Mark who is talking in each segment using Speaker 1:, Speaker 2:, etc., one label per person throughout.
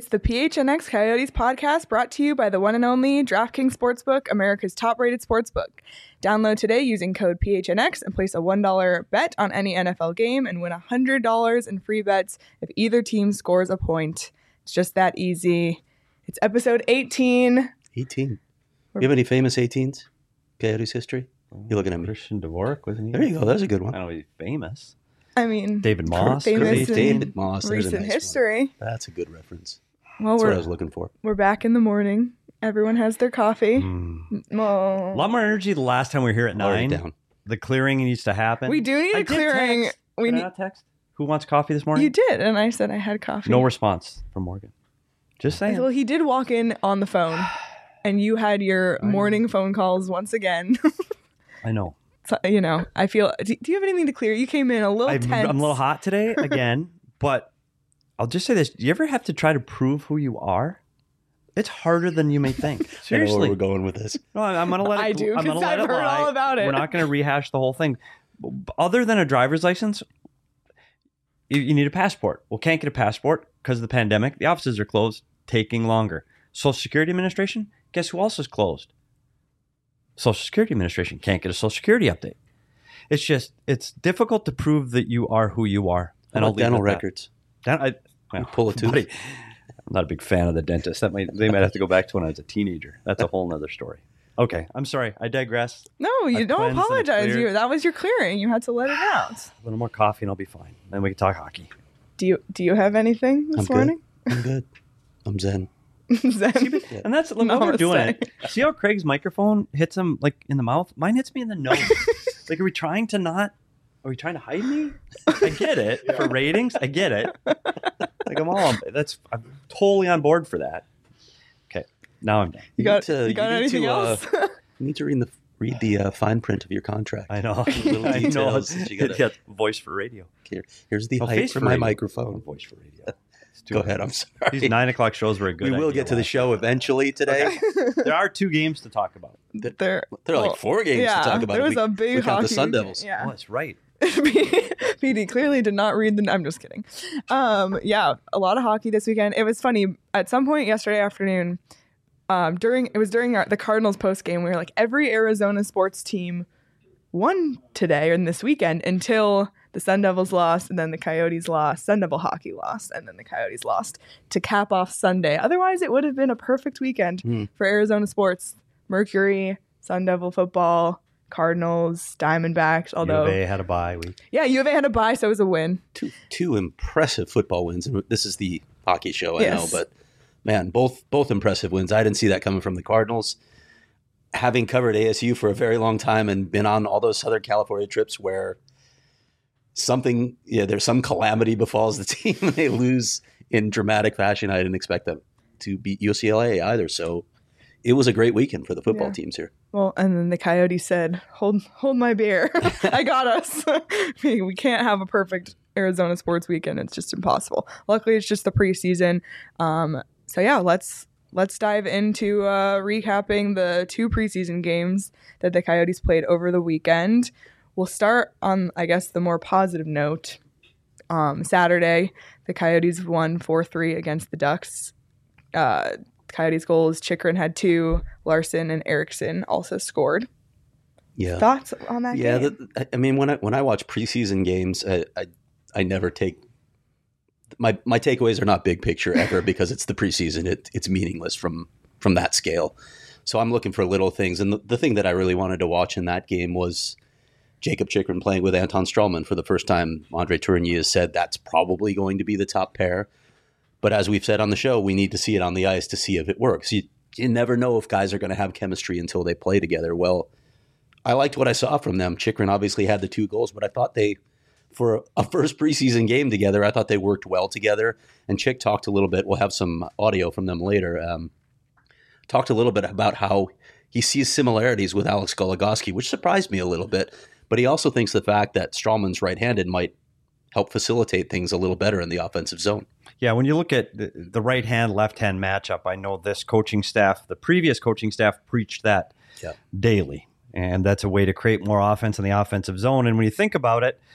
Speaker 1: It's the PHNX Coyotes podcast brought to you by the one and only DraftKings Sportsbook, America's top-rated sportsbook. Download today using code PHNX and place a $1 bet on any NFL game and win $100 in free bets if either team scores a point. It's just that easy. It's episode 18.
Speaker 2: 18. You have any famous 18s? Coyotes history? You're looking at me.
Speaker 3: Christian Dvorak, wasn't he?
Speaker 2: There you go. That's a good one.
Speaker 3: I don't know if he's famous.
Speaker 1: I mean,
Speaker 3: David Moss.
Speaker 1: famous in
Speaker 2: David Moss. There's a
Speaker 1: recent
Speaker 2: nice
Speaker 1: history.
Speaker 2: one. That's a good reference.
Speaker 1: Well,
Speaker 2: That's what I was looking for.
Speaker 1: we're back in the morning. Everyone has their coffee.
Speaker 3: A
Speaker 1: Oh.
Speaker 3: lot more energy the last time we were here at
Speaker 2: Already
Speaker 3: 9.
Speaker 2: down.
Speaker 3: The clearing needs to happen.
Speaker 1: We do need
Speaker 3: I
Speaker 1: a
Speaker 3: did
Speaker 1: clearing.
Speaker 3: text.
Speaker 1: We
Speaker 3: Did I
Speaker 1: need.
Speaker 3: not text? Who wants coffee this morning?
Speaker 1: You did, and I said I had coffee.
Speaker 3: No response from Morgan. Just saying.
Speaker 1: Well, he did walk in on the phone, and you had your morning phone calls once again.
Speaker 3: I know.
Speaker 1: So, you know, I feel. Do you have anything to clear? You came in a little tense.
Speaker 3: I'm a little hot today again, but I'll just say this. Do you ever have to try to prove who you are? It's harder than you may think.
Speaker 2: I know where
Speaker 3: Seriously.
Speaker 2: we're going with this.
Speaker 3: No, I'm going to let it.
Speaker 1: I do,
Speaker 3: I'm gonna
Speaker 1: 'cause
Speaker 3: let
Speaker 1: I've
Speaker 3: it
Speaker 1: heard
Speaker 3: lie.
Speaker 1: all about it.
Speaker 3: We're not going to rehash the whole thing. Other than a driver's license, you need a passport. Well, can't get a passport because of the pandemic. The offices are closed, taking longer. Social Security Administration, guess who else is closed? Social Security Administration can't get a Social Security update. It's difficult to prove that you are who you are.
Speaker 2: And
Speaker 3: I'll leave it
Speaker 2: dental
Speaker 3: at that.
Speaker 2: records.
Speaker 3: Well,
Speaker 2: Pull a tooth.
Speaker 3: buddy, I'm not a big fan of the dentist. They might have to go back to when I was a teenager. That's a whole nother story. Okay, I'm sorry. I digress.
Speaker 1: No, you
Speaker 3: I've
Speaker 1: don't
Speaker 3: cleansed and
Speaker 1: apologize.
Speaker 3: cleared.
Speaker 1: That was your clearing. You had to let it out.
Speaker 3: A little more coffee and I'll be fine. Then we can talk hockey.
Speaker 1: Do you have anything this
Speaker 2: I'm
Speaker 1: morning?
Speaker 2: good. I'm good. I'm zen.
Speaker 1: Zen?
Speaker 3: And that's when we're doing
Speaker 1: Namaste.
Speaker 3: it. See how Craig's microphone hits him like in the mouth? Mine hits me in the nose. Like, are we trying to hide me? I get it for ratings. I get it. Like I'm totally on board for that. Okay, now I'm done.
Speaker 1: You got
Speaker 2: You need
Speaker 1: anything
Speaker 2: to,
Speaker 1: else?
Speaker 2: You need to read the fine print of your contract.
Speaker 3: I know.
Speaker 2: Little
Speaker 3: I know.
Speaker 2: details that you gotta-
Speaker 3: Yeah, voice for radio.
Speaker 2: Here's the
Speaker 3: Oh,
Speaker 2: height
Speaker 3: face
Speaker 2: for
Speaker 3: for
Speaker 2: my
Speaker 3: radio.
Speaker 2: microphone.
Speaker 3: Voice for radio.
Speaker 2: Go ahead. I'm sorry.
Speaker 3: These 9 o'clock shows were a good.
Speaker 2: We will
Speaker 3: idea
Speaker 2: get to the
Speaker 3: last
Speaker 2: show eventually today.
Speaker 3: There are 2 games to talk about.
Speaker 1: There
Speaker 2: There are like 4 games
Speaker 1: yeah,
Speaker 2: to talk about.
Speaker 1: There was
Speaker 2: We-
Speaker 1: a big
Speaker 2: we count
Speaker 1: hockey
Speaker 2: the Sun
Speaker 1: weekend.
Speaker 2: Devils.
Speaker 1: Yeah.
Speaker 3: Oh, that's right.
Speaker 1: PD clearly did not read I'm just kidding. Yeah, a lot of hockey this weekend. It was funny. At some point yesterday afternoon, during the Cardinals post game, we were like, every Arizona sports team won today or this weekend until the Sun Devils lost, and then the Coyotes lost, Sun Devil hockey lost, and then the Coyotes lost to cap off Sunday. Otherwise, it would have been a perfect weekend for Arizona sports. Mercury, Sun Devil football, Cardinals, Diamondbacks. Although,
Speaker 3: U of A had a bye week.
Speaker 1: yeah, U of A had a bye, so it was a win.
Speaker 2: Two impressive football wins. And this is the hockey show, I
Speaker 1: Yes.
Speaker 2: know, but man, both impressive wins. I didn't see that coming from the Cardinals. Having covered ASU for a very long time and been on all those Southern California trips where there's some calamity befalls the team and they lose in dramatic fashion. I didn't expect them to beat UCLA either. So it was a great weekend for the football
Speaker 1: Yeah.
Speaker 2: teams here.
Speaker 1: Well, and then the Coyotes said, "Hold my beer. I got us. We can't have a perfect Arizona sports weekend. It's just impossible." Luckily, it's just the preseason. So yeah, let's dive into recapping the 2 preseason games that the Coyotes played over the weekend. We'll start on, I guess, the more positive note. Saturday, the Coyotes won 4-3 against the Ducks. Coyotes goals, Chychrun had 2, Larson and Erickson also scored.
Speaker 2: Yeah.
Speaker 1: Thoughts on that
Speaker 2: Yeah,
Speaker 1: game?
Speaker 2: I mean, when I watch preseason games, I never take my takeaways are not big picture ever because it's the preseason. It's meaningless from that scale. So I'm looking for little things, and the thing that I really wanted to watch in that game was Jacob Chychrun playing with Anton Strawman for the first time. Andre Tourigny has said that's probably going to be the top pair, but as we've said on the show, we need to see it on the ice to see if it works. You never know if guys are going to have chemistry until they play together. Well, I liked what I saw from them. Chychrun obviously had the 2 goals, but I thought for a first preseason game together, I thought they worked well together. And Chick talked a little bit. We'll have some audio from them later. Talked a little bit about how he sees similarities with Alex Goligoski, which surprised me a little bit. But he also thinks the fact that Strawman's right-handed might help facilitate things a little better in the offensive zone.
Speaker 3: Yeah, when you look at the right-hand, left-hand matchup, I know this coaching staff, the previous coaching staff, preached that daily. And that's a way to create more offense in the offensive zone. And when you think about it,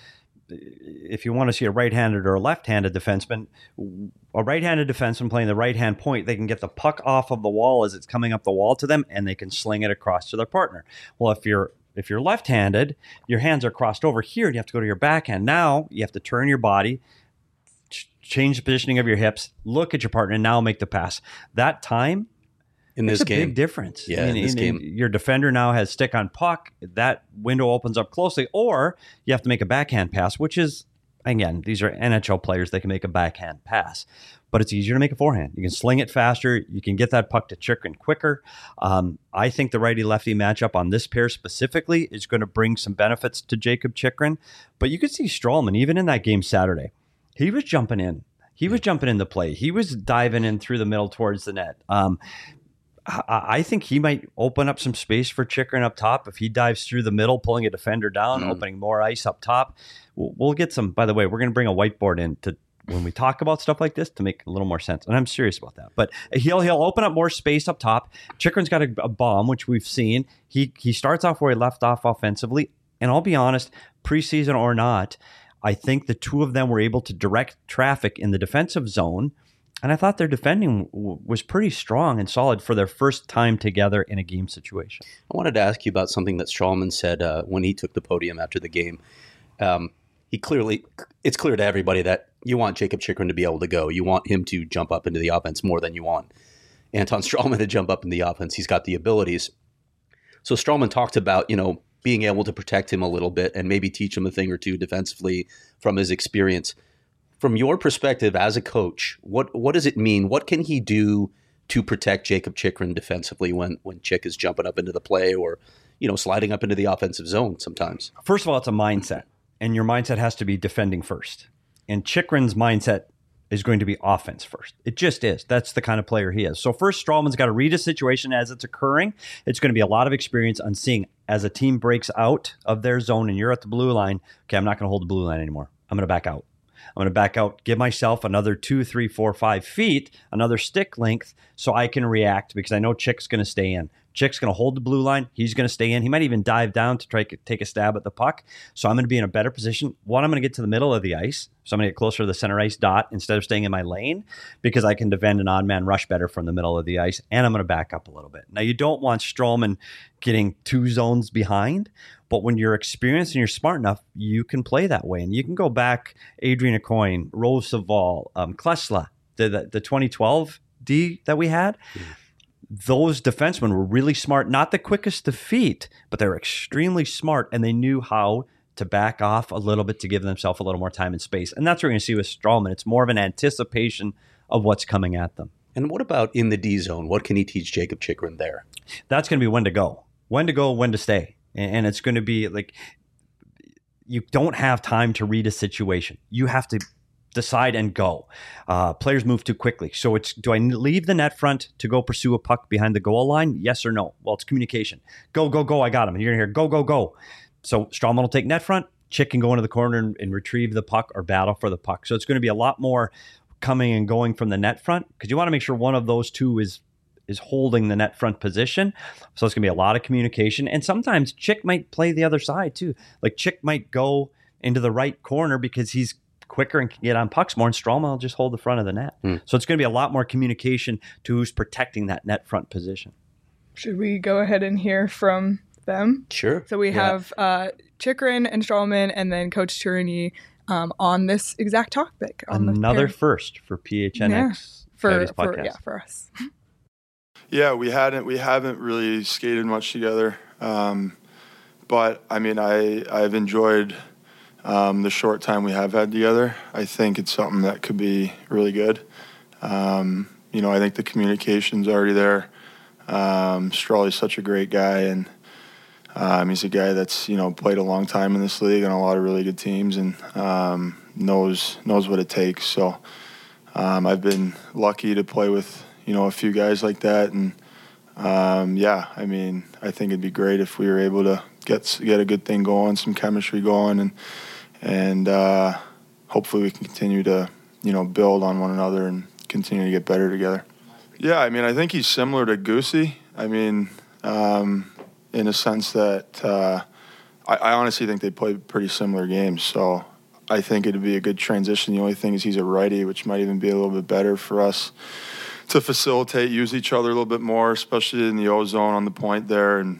Speaker 3: if you want to see a right-handed or a left-handed defenseman, a right-handed defenseman playing the right-hand point, they can get the puck off of the wall as it's coming up the wall to them, and they can sling it across to their partner. Well, if you're left-handed, your hands are crossed over here, and you have to go to your backhand. Now you have to turn your body, change the positioning of your hips, look at your partner, and now make the pass. That time,
Speaker 2: in this game,
Speaker 3: big difference.
Speaker 2: Yeah, in this game,
Speaker 3: your defender now has stick on puck. That window opens up closely, or you have to make a backhand pass, which is, again, these are NHL players. They can make a backhand pass, but it's easier to make a forehand. You can sling it faster. You can get that puck to Chychrun quicker. I think the righty-lefty matchup on this pair specifically is going to bring some benefits to Jakob Chychrun, but you could see Stralman, even in that game Saturday, he was jumping in. He was jumping in the play. He was diving in through the middle towards the net. I think he might open up some space for Chychrun up top if he dives through the middle, pulling a defender down, opening more ice up top. We'll get some. By the way, we're going to bring a whiteboard in to when we talk about stuff like this to make a little more sense. And I'm serious about that. But he'll open up more space up top. Chychrun's got a bomb, which we've seen. He starts off where he left off offensively. And I'll be honest, preseason or not, I think the two of them were able to direct traffic in the defensive zone. And I thought their defending was pretty strong and solid for their first time together in a game situation.
Speaker 2: I wanted to ask you about something that Stralman said when he took the podium after the game. It's clear to everybody that you want Jakob Chychrun to be able to go. You want him to jump up into the offense more than you want Anton Stralman to jump up in the offense. He's got the abilities. So Stralman talked about, being able to protect him a little bit and maybe teach him a thing or two defensively from his experience. From your perspective as a coach, what does it mean? What can he do to protect Jakob Chychrun defensively when Chick is jumping up into the play or, sliding up into the offensive zone sometimes?
Speaker 3: First of all, it's a mindset, and your mindset has to be defending first. And Chychrun's mindset is going to be offense first. It just is. That's the kind of player he is. So first, Stralman's got to read a situation as it's occurring. It's going to be a lot of experience on seeing as a team breaks out of their zone and you're at the blue line, okay, I'm not going to hold the blue line anymore. I'm going to back out. I'm going to back out, give myself another 2, 3, 4, 5 feet, another stick length, so I can react because I know Chick's going to stay in. Chick's going to hold the blue line. He's going to stay in. He might even dive down to try to take a stab at the puck. So I'm going to be in a better position. One, I'm going to get to the middle of the ice. So I'm going to get closer to the center ice dot instead of staying in my lane because I can defend an odd man rush better from the middle of the ice. And I'm going to back up a little bit. Now, you don't want Stralman getting 2 zones behind. But when you're experienced and you're smart enough, you can play that way. And you can go back, Adrian Aucoin, Rose Saval, Klesla, the 2012 D that we had. Those defensemen were really smart, not the quickest to feet, but they were extremely smart, and they knew how to back off a little bit to give themselves a little more time and space. And that's what we're going to see with Stralman. It's more of an anticipation of what's coming at them.
Speaker 2: And what about in the D zone? What can he teach Jakob Chychrun there?
Speaker 3: That's going to be when to go, when to stay. And it's going to be like you don't have time to read a situation. You have to decide and go. Players move too quickly. So do I leave the net front to go pursue a puck behind the goal line? Yes or no? Well, it's communication. Go, go, go. I got him. And you're going to hear go, go, go. So Stralman will take net front. Chick can go into the corner and retrieve the puck or battle for the puck. So it's going to be a lot more coming and going from the net front because you want to make sure one of those two is holding the net front position. So it's going to be a lot of communication. And sometimes Chick might play the other side too. Like Chick might go into the right corner because he's quicker and can get on pucks more, and Stralman will just hold the front of the net. So it's going to be a lot more communication to who's protecting that net front position.
Speaker 1: Should we go ahead and hear from them?
Speaker 2: Sure.
Speaker 1: So we have Chychrun and Stralman and then Coach Tourigny on this exact topic.
Speaker 3: Another first for PHNX.
Speaker 1: For us.
Speaker 4: Yeah, we haven't really skated much together, but I mean, I've enjoyed the short time we have had together. I think it's something that could be really good. I think the communication's already there. Strawley's such a great guy, and he's a guy that's played a long time in this league on a lot of really good teams and knows what it takes. So I've been lucky to play with a few guys like that, and I think it'd be great if we were able to get a good thing going, some chemistry going, and hopefully we can continue to build on one another and continue to get better together. Yeah, I think he's similar to Goosey. In a sense that I honestly think they play pretty similar games. So I think it'd be a good transition. The only thing is he's a righty, which might even be a little bit better for us to facilitate, use each other a little bit more, especially in the O zone on the point there. And,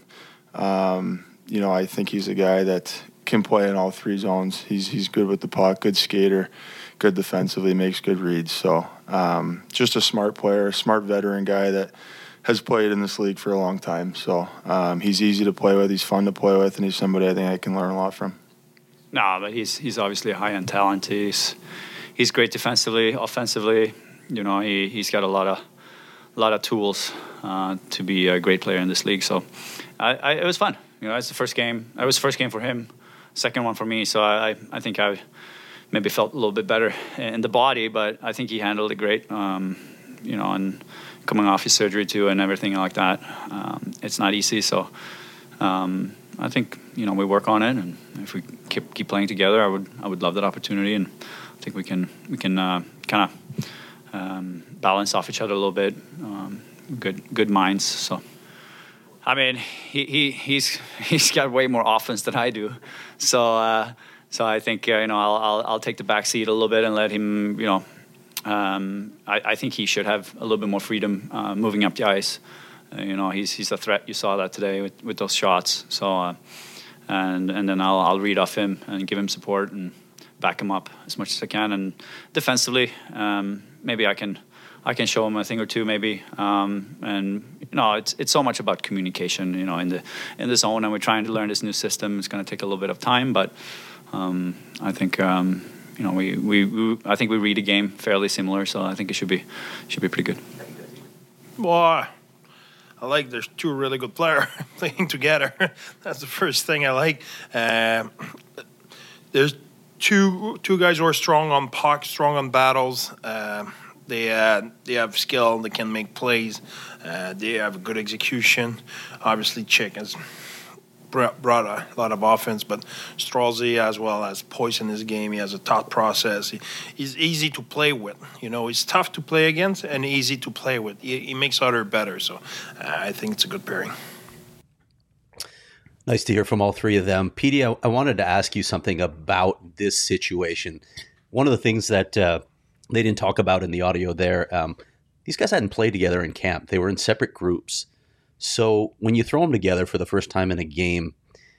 Speaker 4: I think he's a guy that can play in all three zones. He's good with the puck, good skater, good defensively, makes good reads. So just a smart player, a smart veteran guy that has played in this league for a long time. So he's easy to play with, he's fun to play with, and he's somebody I think I can learn a lot from.
Speaker 5: No, but he's obviously a high-end talent. He's great defensively, offensively. He's got a lot of tools to be a great player in this league. So it was fun. It's the first game. It was the first game for him, second one for me. So I think I maybe felt a little bit better in the body, but I think he handled it great. And coming off his surgery too and everything like that, it's not easy. So I think we work on it, and if we keep playing together, I would love that opportunity, and I think we can kind of balance off each other a little bit. Good minds. So I mean, he's got way more offense than I do. So I think I'll take the back seat a little bit and let him. I think he should have a little bit more freedom moving up the ice. He's a threat. You saw that today with those shots. So, and then I'll read off him and give him support and back him up as much as I can. And defensively, maybe I can show him a thing or two, maybe. It's so much about communication. In the zone, and we're trying to learn this new system. It's going to take a little bit of time, but I think I think we read a game fairly similar. So I think it should be pretty good.
Speaker 6: Boy. I like there's two really good players playing together. That's the first thing I like. There's two guys who are strong on pucks, strong on battles. They have skill. They can make plays. They have good execution. Obviously, Chick has brought a lot of offense, but Stralzy as well has poise in his game. He has a thought process. He's easy to play with. He's tough to play against and easy to play with. He makes others better. So I think it's a good pairing.
Speaker 2: Nice to hear from all three of them. Petey, I wanted to ask you something about this situation. One of the things that they didn't talk about in the audio there, these guys hadn't played together in camp. They were in separate groups. So when you throw them together for the first time in a game,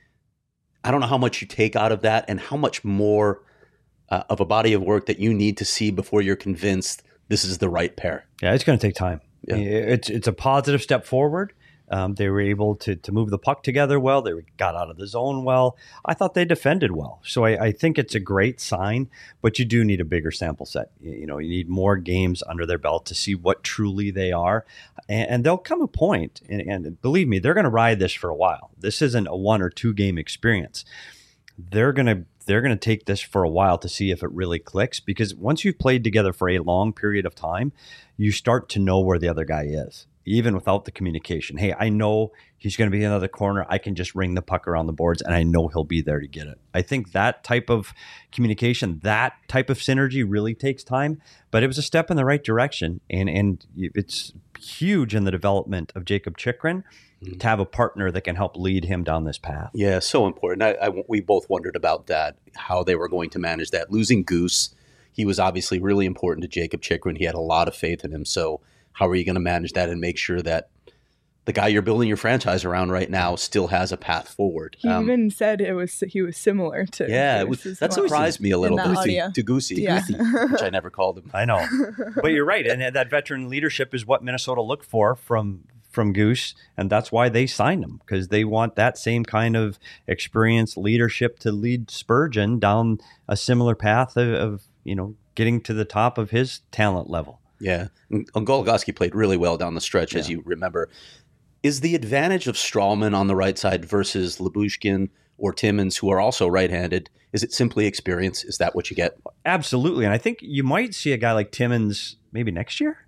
Speaker 2: I don't know how much you take out of that and how much more of a body of work that you need to see before you're convinced this is the right pair.
Speaker 3: Yeah, it's going to take time.
Speaker 2: Yeah.
Speaker 3: It's a positive step forward. They were able to move the puck together well. They got out of the zone well. I thought they defended well. So I think it's a great sign, but you do need a bigger sample set. You need more games under their belt to see what truly they are. And there'll come a point, and believe me, they're going to ride this for a while. This isn't a 1 or 2 game experience. They're going to take this for a while to see if it really clicks, because once you've played together for a long period of time, you start to know where the other guy is, even without the communication. Hey, I know he's going to be in another corner. I can just ring the puck around the boards, and I know he'll be there to get it. I think that type of communication, that type of synergy really takes time, but it was a step in the right direction, and it's huge in the development of Jakob Chychrun to have a partner that can help lead him down this path.
Speaker 2: Yeah, so important. We both wondered about that, how they were going to manage that. Losing Goose, he was obviously really important to Jakob Chychrun. He had a lot of faith in him, so how are you going to manage that and make sure that the guy you're building your franchise around right now still has a path forward?
Speaker 1: He even said he was similar to.
Speaker 2: Yeah, that surprised me a little bit to Goosey,
Speaker 1: yeah.
Speaker 2: which I never called him.
Speaker 3: I know, but you're right, and that veteran leadership is what Minnesota looked for from Goose, and that's why they signed him, because they want that same kind of experience, leadership to lead Spurgeon down a similar path of getting to the top of his talent level.
Speaker 2: Yeah, and Goligoski played really well down the stretch, as you remember. Is the advantage of Stralman on the right side versus Lyubushkin or Timmins, who are also right-handed, is it simply experience? Is that what you get?
Speaker 3: Absolutely, and I think you might see a guy like Timmins maybe next year.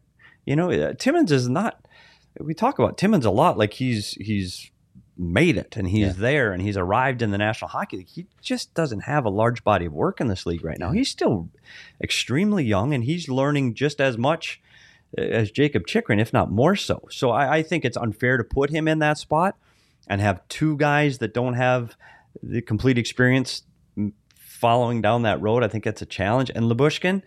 Speaker 3: Timmins is not. We talk about Timmins a lot, like he's made it and he's there and he's arrived in the National Hockey League. He just doesn't have a large body of work in this league right now. He's still extremely young, and he's learning just as much as Jakob Chychrun, if not more so. So I think it's unfair to put him in that spot and have two guys that don't have the complete experience following down that road. I think that's a challenge. And Lyubushkin,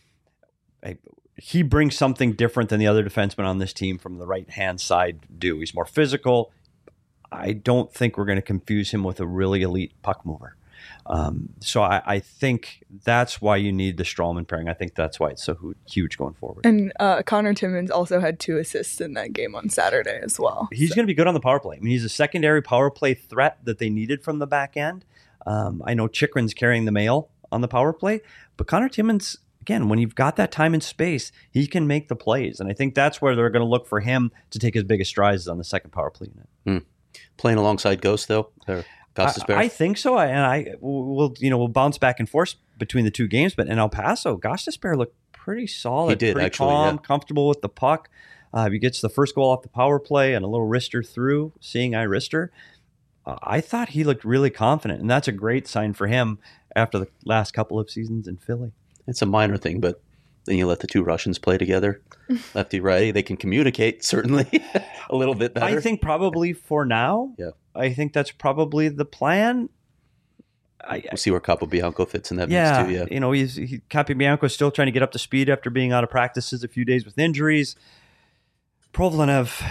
Speaker 3: he brings something different than the other defensemen on this team from the right-hand side do. He's more physical. I don't think we're going to confuse him with a really elite puck mover. So I think that's why you need the Stralman pairing. I think that's why it's so huge going forward.
Speaker 1: And Connor Timmins also had 2 assists in that game on Saturday as well.
Speaker 3: He's going to be good on the power play. I mean, he's a secondary power play threat that they needed from the back end. I know Chikrin's carrying the mail on the power play, but Connor Timmins, again, when you've got that time and space, he can make the plays. And I think that's where they're going to look for him to take his biggest strides on the second power play unit.
Speaker 2: Playing alongside Ghost, though? Or Gostisbehere?
Speaker 3: I think so. We'll bounce back and forth between the two games, but in El Paso, Gostisbehere looked pretty solid.
Speaker 2: He did,
Speaker 3: pretty
Speaker 2: actually,
Speaker 3: calm,
Speaker 2: yeah.
Speaker 3: comfortable with the puck. He gets the first goal off the power play and a little wrister through, seeing eye wrister. I thought he looked really confident, and that's a great sign for him after the last couple of seasons in Philly.
Speaker 2: It's a minor thing, but then you let the 2 Russians play together, lefty righty. They can communicate certainly a little bit better.
Speaker 3: I think probably for now.
Speaker 2: Yeah.
Speaker 3: I think that's probably the plan.
Speaker 2: We'll see where Capobianco fits in that
Speaker 3: Yeah,
Speaker 2: mix too. Yeah,
Speaker 3: Capobianco is still trying to get up to speed after being out of practices a few days with injuries. Provlenev,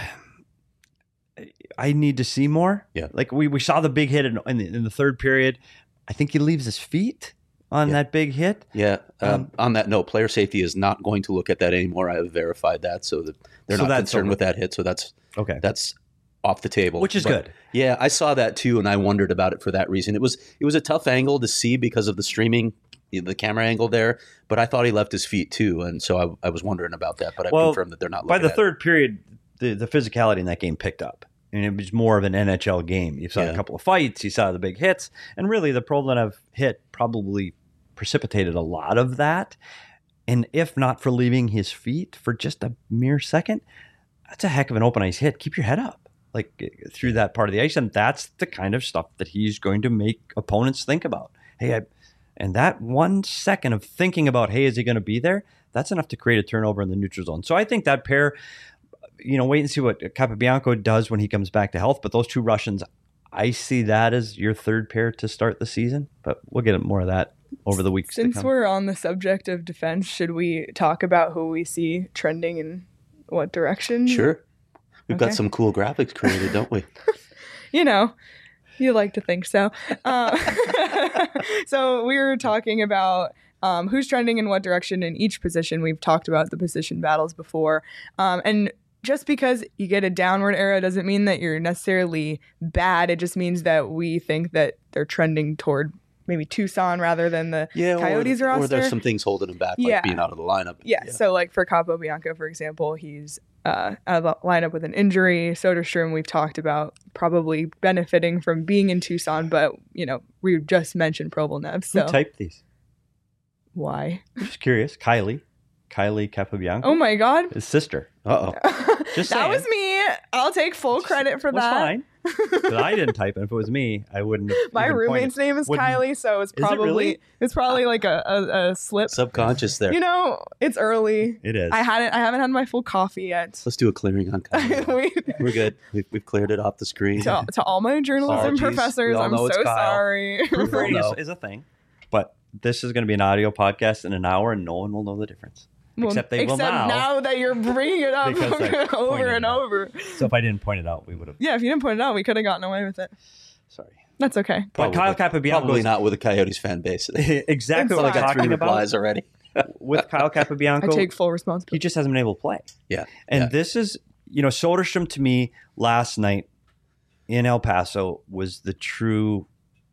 Speaker 3: I need to see more.
Speaker 2: Yeah.
Speaker 3: Like we saw the big hit in the third period. I think he leaves his feet on that big hit.
Speaker 2: Yeah. On that note, player safety is not going to look at that anymore. I have verified that, so that they're not concerned with that hit. So that's
Speaker 3: okay.
Speaker 2: That's off the table,
Speaker 3: which is good.
Speaker 2: Yeah, I saw that too, and I wondered about it for that reason. It was a tough angle to see because of the streaming, the camera angle there. But I thought he left his feet too, and so I was wondering about that. But I confirmed that they're not.
Speaker 3: By
Speaker 2: looking
Speaker 3: the third period, the physicality in that game picked up. And it was more of an NHL game. You saw a couple of fights, you saw the big hits, and really the Provlenev hit probably precipitated a lot of that. And if not for leaving his feet for just a mere second, that's a heck of an open ice hit. Keep your head up, like through that part of the ice, and that's the kind of stuff that he's going to make opponents think about. Hey, and that 1 second of thinking about, hey, is he going to be there? That's enough to create a turnover in the neutral zone. So I think that pair. Wait and see what Capobianco does when he comes back to health. But those 2 Russians, I see that as your third pair to start the season. But we'll get more of that over the weeks to come.
Speaker 1: Since we're on the subject of defense, should we talk about who we see trending in what direction?
Speaker 2: Sure. We've got some cool graphics created, don't we?
Speaker 1: You like to think so. So we were talking about who's trending in what direction in each position. We've talked about the position battles before. And just because you get a downward arrow doesn't mean that you're necessarily bad. It just means that we think that they're trending toward maybe Tucson rather than the Coyotes roster.
Speaker 2: Or there's some things holding him back, like being out of the lineup.
Speaker 1: Yeah. So like for Capobianco, for example, he's out of the lineup with an injury. Soderstrom, we've talked about probably benefiting from being in Tucson, but, we just mentioned Provlenev. So.
Speaker 3: Who typed these?
Speaker 1: Why?
Speaker 3: I'm just curious. Kylie Capobianco.
Speaker 1: Oh my God.
Speaker 3: His sister.
Speaker 2: Uh-oh.
Speaker 3: Just
Speaker 1: that
Speaker 3: saying.
Speaker 1: was me. I'll take full credit for that.
Speaker 3: Fine. But I didn't type it. If it was me, I wouldn't have.
Speaker 1: My roommate's name is Kylie, so it's probably like a slip.
Speaker 2: Subconscious there.
Speaker 1: It's early.
Speaker 3: It is.
Speaker 1: I haven't had my full coffee yet.
Speaker 2: Let's do a clearing on Kylie. We're good. We've cleared it off the screen.
Speaker 1: To all my journalism professors, I'm so sorry.
Speaker 3: Proofreading is a thing, but this is going to be an audio podcast in an hour, and no one will know the difference. Except they will
Speaker 1: now that you're bringing it up over and over.
Speaker 3: So if I didn't point it out, we would have.
Speaker 1: Yeah, if you didn't point it out, we could have gotten away with it.
Speaker 3: Sorry.
Speaker 1: That's okay.
Speaker 3: But Kyle Capobianco
Speaker 2: probably not with a Coyotes fan base.
Speaker 3: Exactly what I'm talking about.
Speaker 2: Already.
Speaker 3: With Kyle Capobianco,
Speaker 1: I take full responsibility.
Speaker 3: He just hasn't been able to play.
Speaker 2: Yeah.
Speaker 3: And this is, Soderstrom to me last night in El Paso was the true.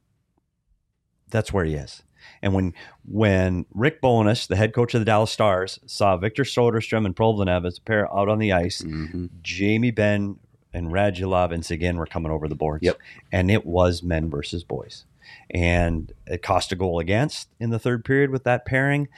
Speaker 3: That's where he is. And when Rick Bowness, the head coach of the Dallas Stars, saw Victor Soderstrom and Provlenev as a pair out on the ice, Jamie Benn and Radulov and Seguin were coming over the boards.
Speaker 2: Yep.
Speaker 3: And it was men versus boys. And it cost a goal against in the third period with that pairing.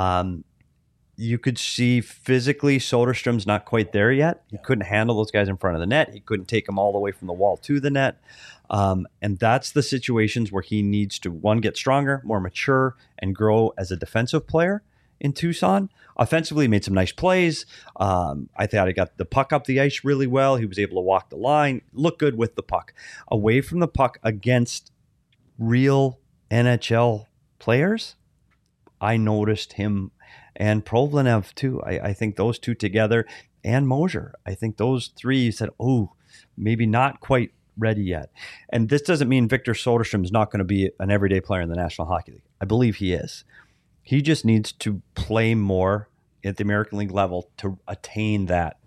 Speaker 3: You could see physically Soderstrom's not quite there yet. He couldn't handle those guys in front of the net. He couldn't take them all the way from the wall to the net. And that's the situations where he needs to, one, get stronger, more mature, and grow as a defensive player in Tucson. Offensively, he made some nice plays. I thought he got the puck up the ice really well. He was able to walk the line, look good with the puck. Away from the puck against real NHL players, I noticed him and Provlenev too. I think those two together and Mosier. I think those three said, oh, maybe not quite ready yet. And this doesn't mean Victor Soderstrom is not going to be an everyday player in the National Hockey League. I believe he is. He just needs to play more at the American League level to attain that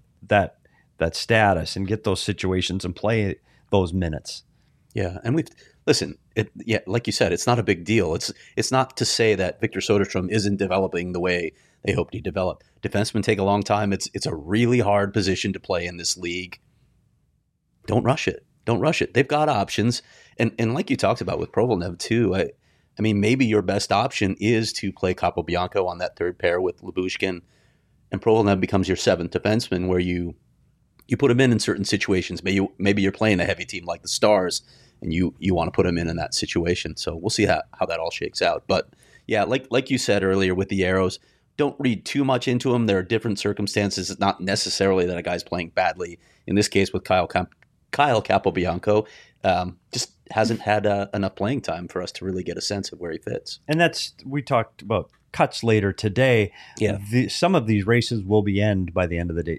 Speaker 3: status and get those situations and play those minutes.
Speaker 2: Yeah, and like you said, it's not a big deal. It's not to say that Victor Soderstrom isn't developing the way they hoped he'd develop. Defensemen take a long time. It's a really hard position to play in this league. Don't rush it. Don't rush it. They've got options, and like you talked about with Provlenev too. I mean, maybe your best option is to play Capobianco on that third pair with Lyubushkin, and Provlenev becomes your seventh defenseman, where you put him in certain situations. Maybe you're playing a heavy team like the Stars, and you want to put him in that situation. So we'll see how that all shakes out. But yeah, like you said earlier with the Arrows, don't read too much into them. There are different circumstances. It's not necessarily that a guy's playing badly. In this case with Kyle Capobianco, just hasn't had enough playing time for us to really get a sense of where he fits.
Speaker 3: And we talked about cuts later today.
Speaker 2: Yeah,
Speaker 3: some of these races will be ended by the end of the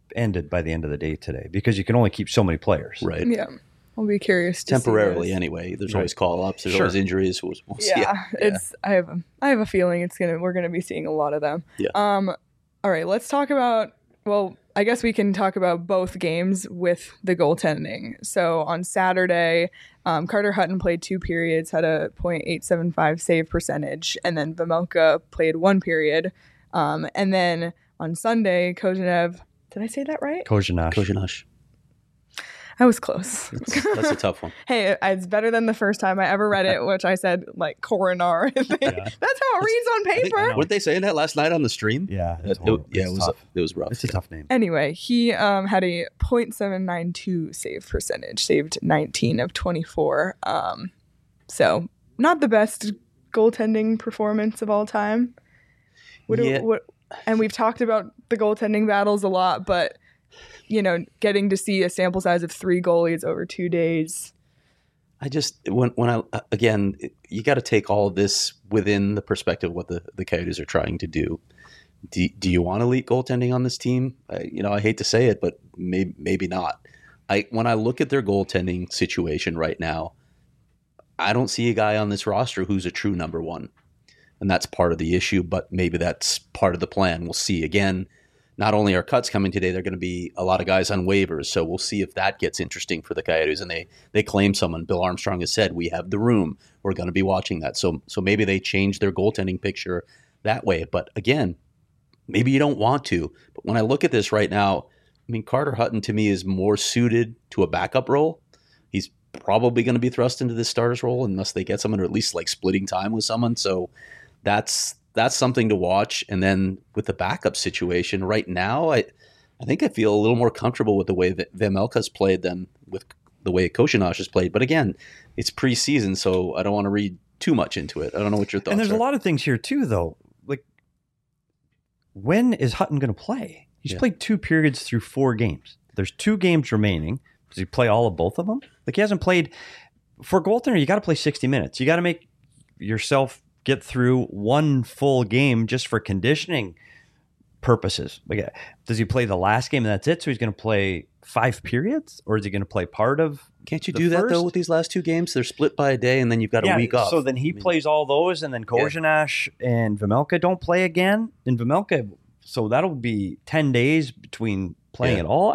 Speaker 3: day today, because you can only keep so many players.
Speaker 2: Right.
Speaker 1: Yeah. I'll be curious to
Speaker 2: temporarily
Speaker 1: see
Speaker 2: anyway. There's always call-ups. There's
Speaker 3: Sure.
Speaker 2: always injuries. We'll see.
Speaker 1: I have a feeling we're gonna be seeing a lot of them.
Speaker 2: Yeah.
Speaker 1: All right, let's talk about. Well, I guess we can talk about both games with the goaltending. So on Saturday, Carter Hutton played 2 periods, had a .875 save percentage, and then Vejmelka played 1 period. And then on Sunday, Kozenev. Did I say that right?
Speaker 3: Kozhinash.
Speaker 1: I was close.
Speaker 2: That's a tough one.
Speaker 1: Hey, it's better than the first time I ever read it, which I said like coronar. That's how it reads on paper.
Speaker 2: What did they say that last night on the stream?
Speaker 3: Yeah.
Speaker 2: It was rough.
Speaker 3: It's a tough name.
Speaker 1: Anyway, he had a .792 save percentage, saved 19 of 24. So not the best goaltending performance of all time. And we've talked about the goaltending battles a lot, but getting to see a sample size of 3 goalies over 2 days.
Speaker 2: I just again, you got to take all of this within the perspective of what the Coyotes are trying to do. Do you want elite goaltending on this team? I hate to say it, but maybe not. When I look at their goaltending situation right now, I don't see a guy on this roster who's a true number one, and that's part of the issue. But maybe that's part of the plan. We'll see. Again, not only are cuts coming today, they're going to be a lot of guys on waivers. So we'll see if that gets interesting for the Coyotes. And they claim someone. Bill Armstrong has said, we have the room. We're going to be watching that. So maybe they change their goaltending picture that way. But again, maybe you don't want to. But when I look at this right now, I mean, Carter Hutton to me is more suited to a backup role. He's probably going to be thrust into this starter's role unless they get someone, or at least like splitting time with someone. So that's something to watch. And then with the backup situation right now, I think I feel a little more comfortable with the way that Vejmelka's played than with the way Koshinash has played. But again, it's preseason, so I don't want to read too much into it. I don't know what your thoughts are.
Speaker 3: And there's a lot of things here too, though. Like, when is Hutton going to play? He's played 2 periods through 4 games. There's 2 games remaining. Does he play all of both of them? Like, he hasn't played. For a goaltender, you got to play 60 minutes. You got to make yourself get through 1 full game just for conditioning purposes. Like, does he play the last game and that's it? So he's going to play 5 periods, or is he going to play part of?
Speaker 2: Can't you do that though with these last 2 games? They're split by a day, and then you've got a week off.
Speaker 3: So then he plays all those, and then Kozhinash and Vejmelka don't play again. And Vejmelka, so that'll be 10 days between playing it all.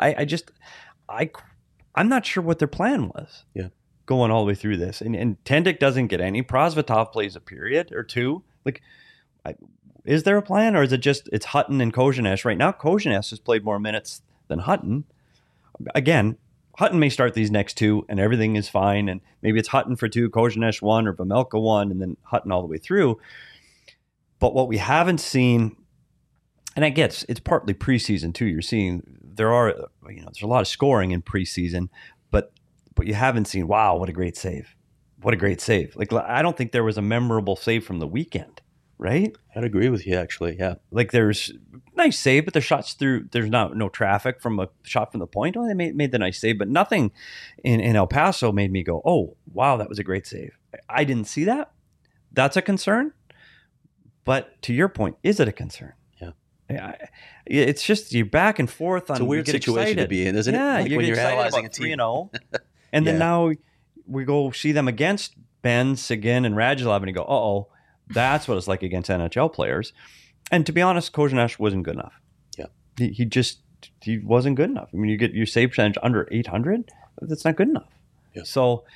Speaker 3: I'm not sure what their plan was.
Speaker 2: Yeah.
Speaker 3: Going all the way through this. And Tendik doesn't get any. Prosvetov plays a period or 2. Like, is there a plan, or is it just it's Hutton and Kozhinash? Right now, Kozhinash has played more minutes than Hutton. Again, Hutton may start these next 2 and everything is fine. And maybe it's Hutton for 2, Kozhinash 1, or Vejmelka 1, and then Hutton all the way through. But what we haven't seen, and I guess it's partly preseason too. You're seeing there's a lot of scoring in preseason, but you haven't seen, wow, what a great save. What a great save. Like, I don't think there was a memorable save from the weekend, right?
Speaker 2: I'd agree with you, actually, yeah.
Speaker 3: Like, there's nice save, but the shots through, there's no traffic from a shot from the point. Oh, they made the nice save, but nothing in El Paso made me go, oh, wow, that was a great save. I didn't see that, that's a concern. But to your point, is it a concern? Yeah. It's just you're back and forth on.
Speaker 2: It's a weird situation to be in, isn't it?
Speaker 3: Yeah,
Speaker 2: Like
Speaker 3: you
Speaker 2: when
Speaker 3: get
Speaker 2: you're
Speaker 3: excited
Speaker 2: analyzing
Speaker 3: about
Speaker 2: a team.
Speaker 3: 3-0, and then now we go see them against Ben, Seguin, and Radulov, and you go, uh-oh, that's what it's like against NHL players. And to be honest, Kozenash wasn't good enough.
Speaker 2: Yeah.
Speaker 3: He wasn't good enough. I mean, you get your save percentage under 800, that's not good enough.
Speaker 2: Yeah.
Speaker 3: So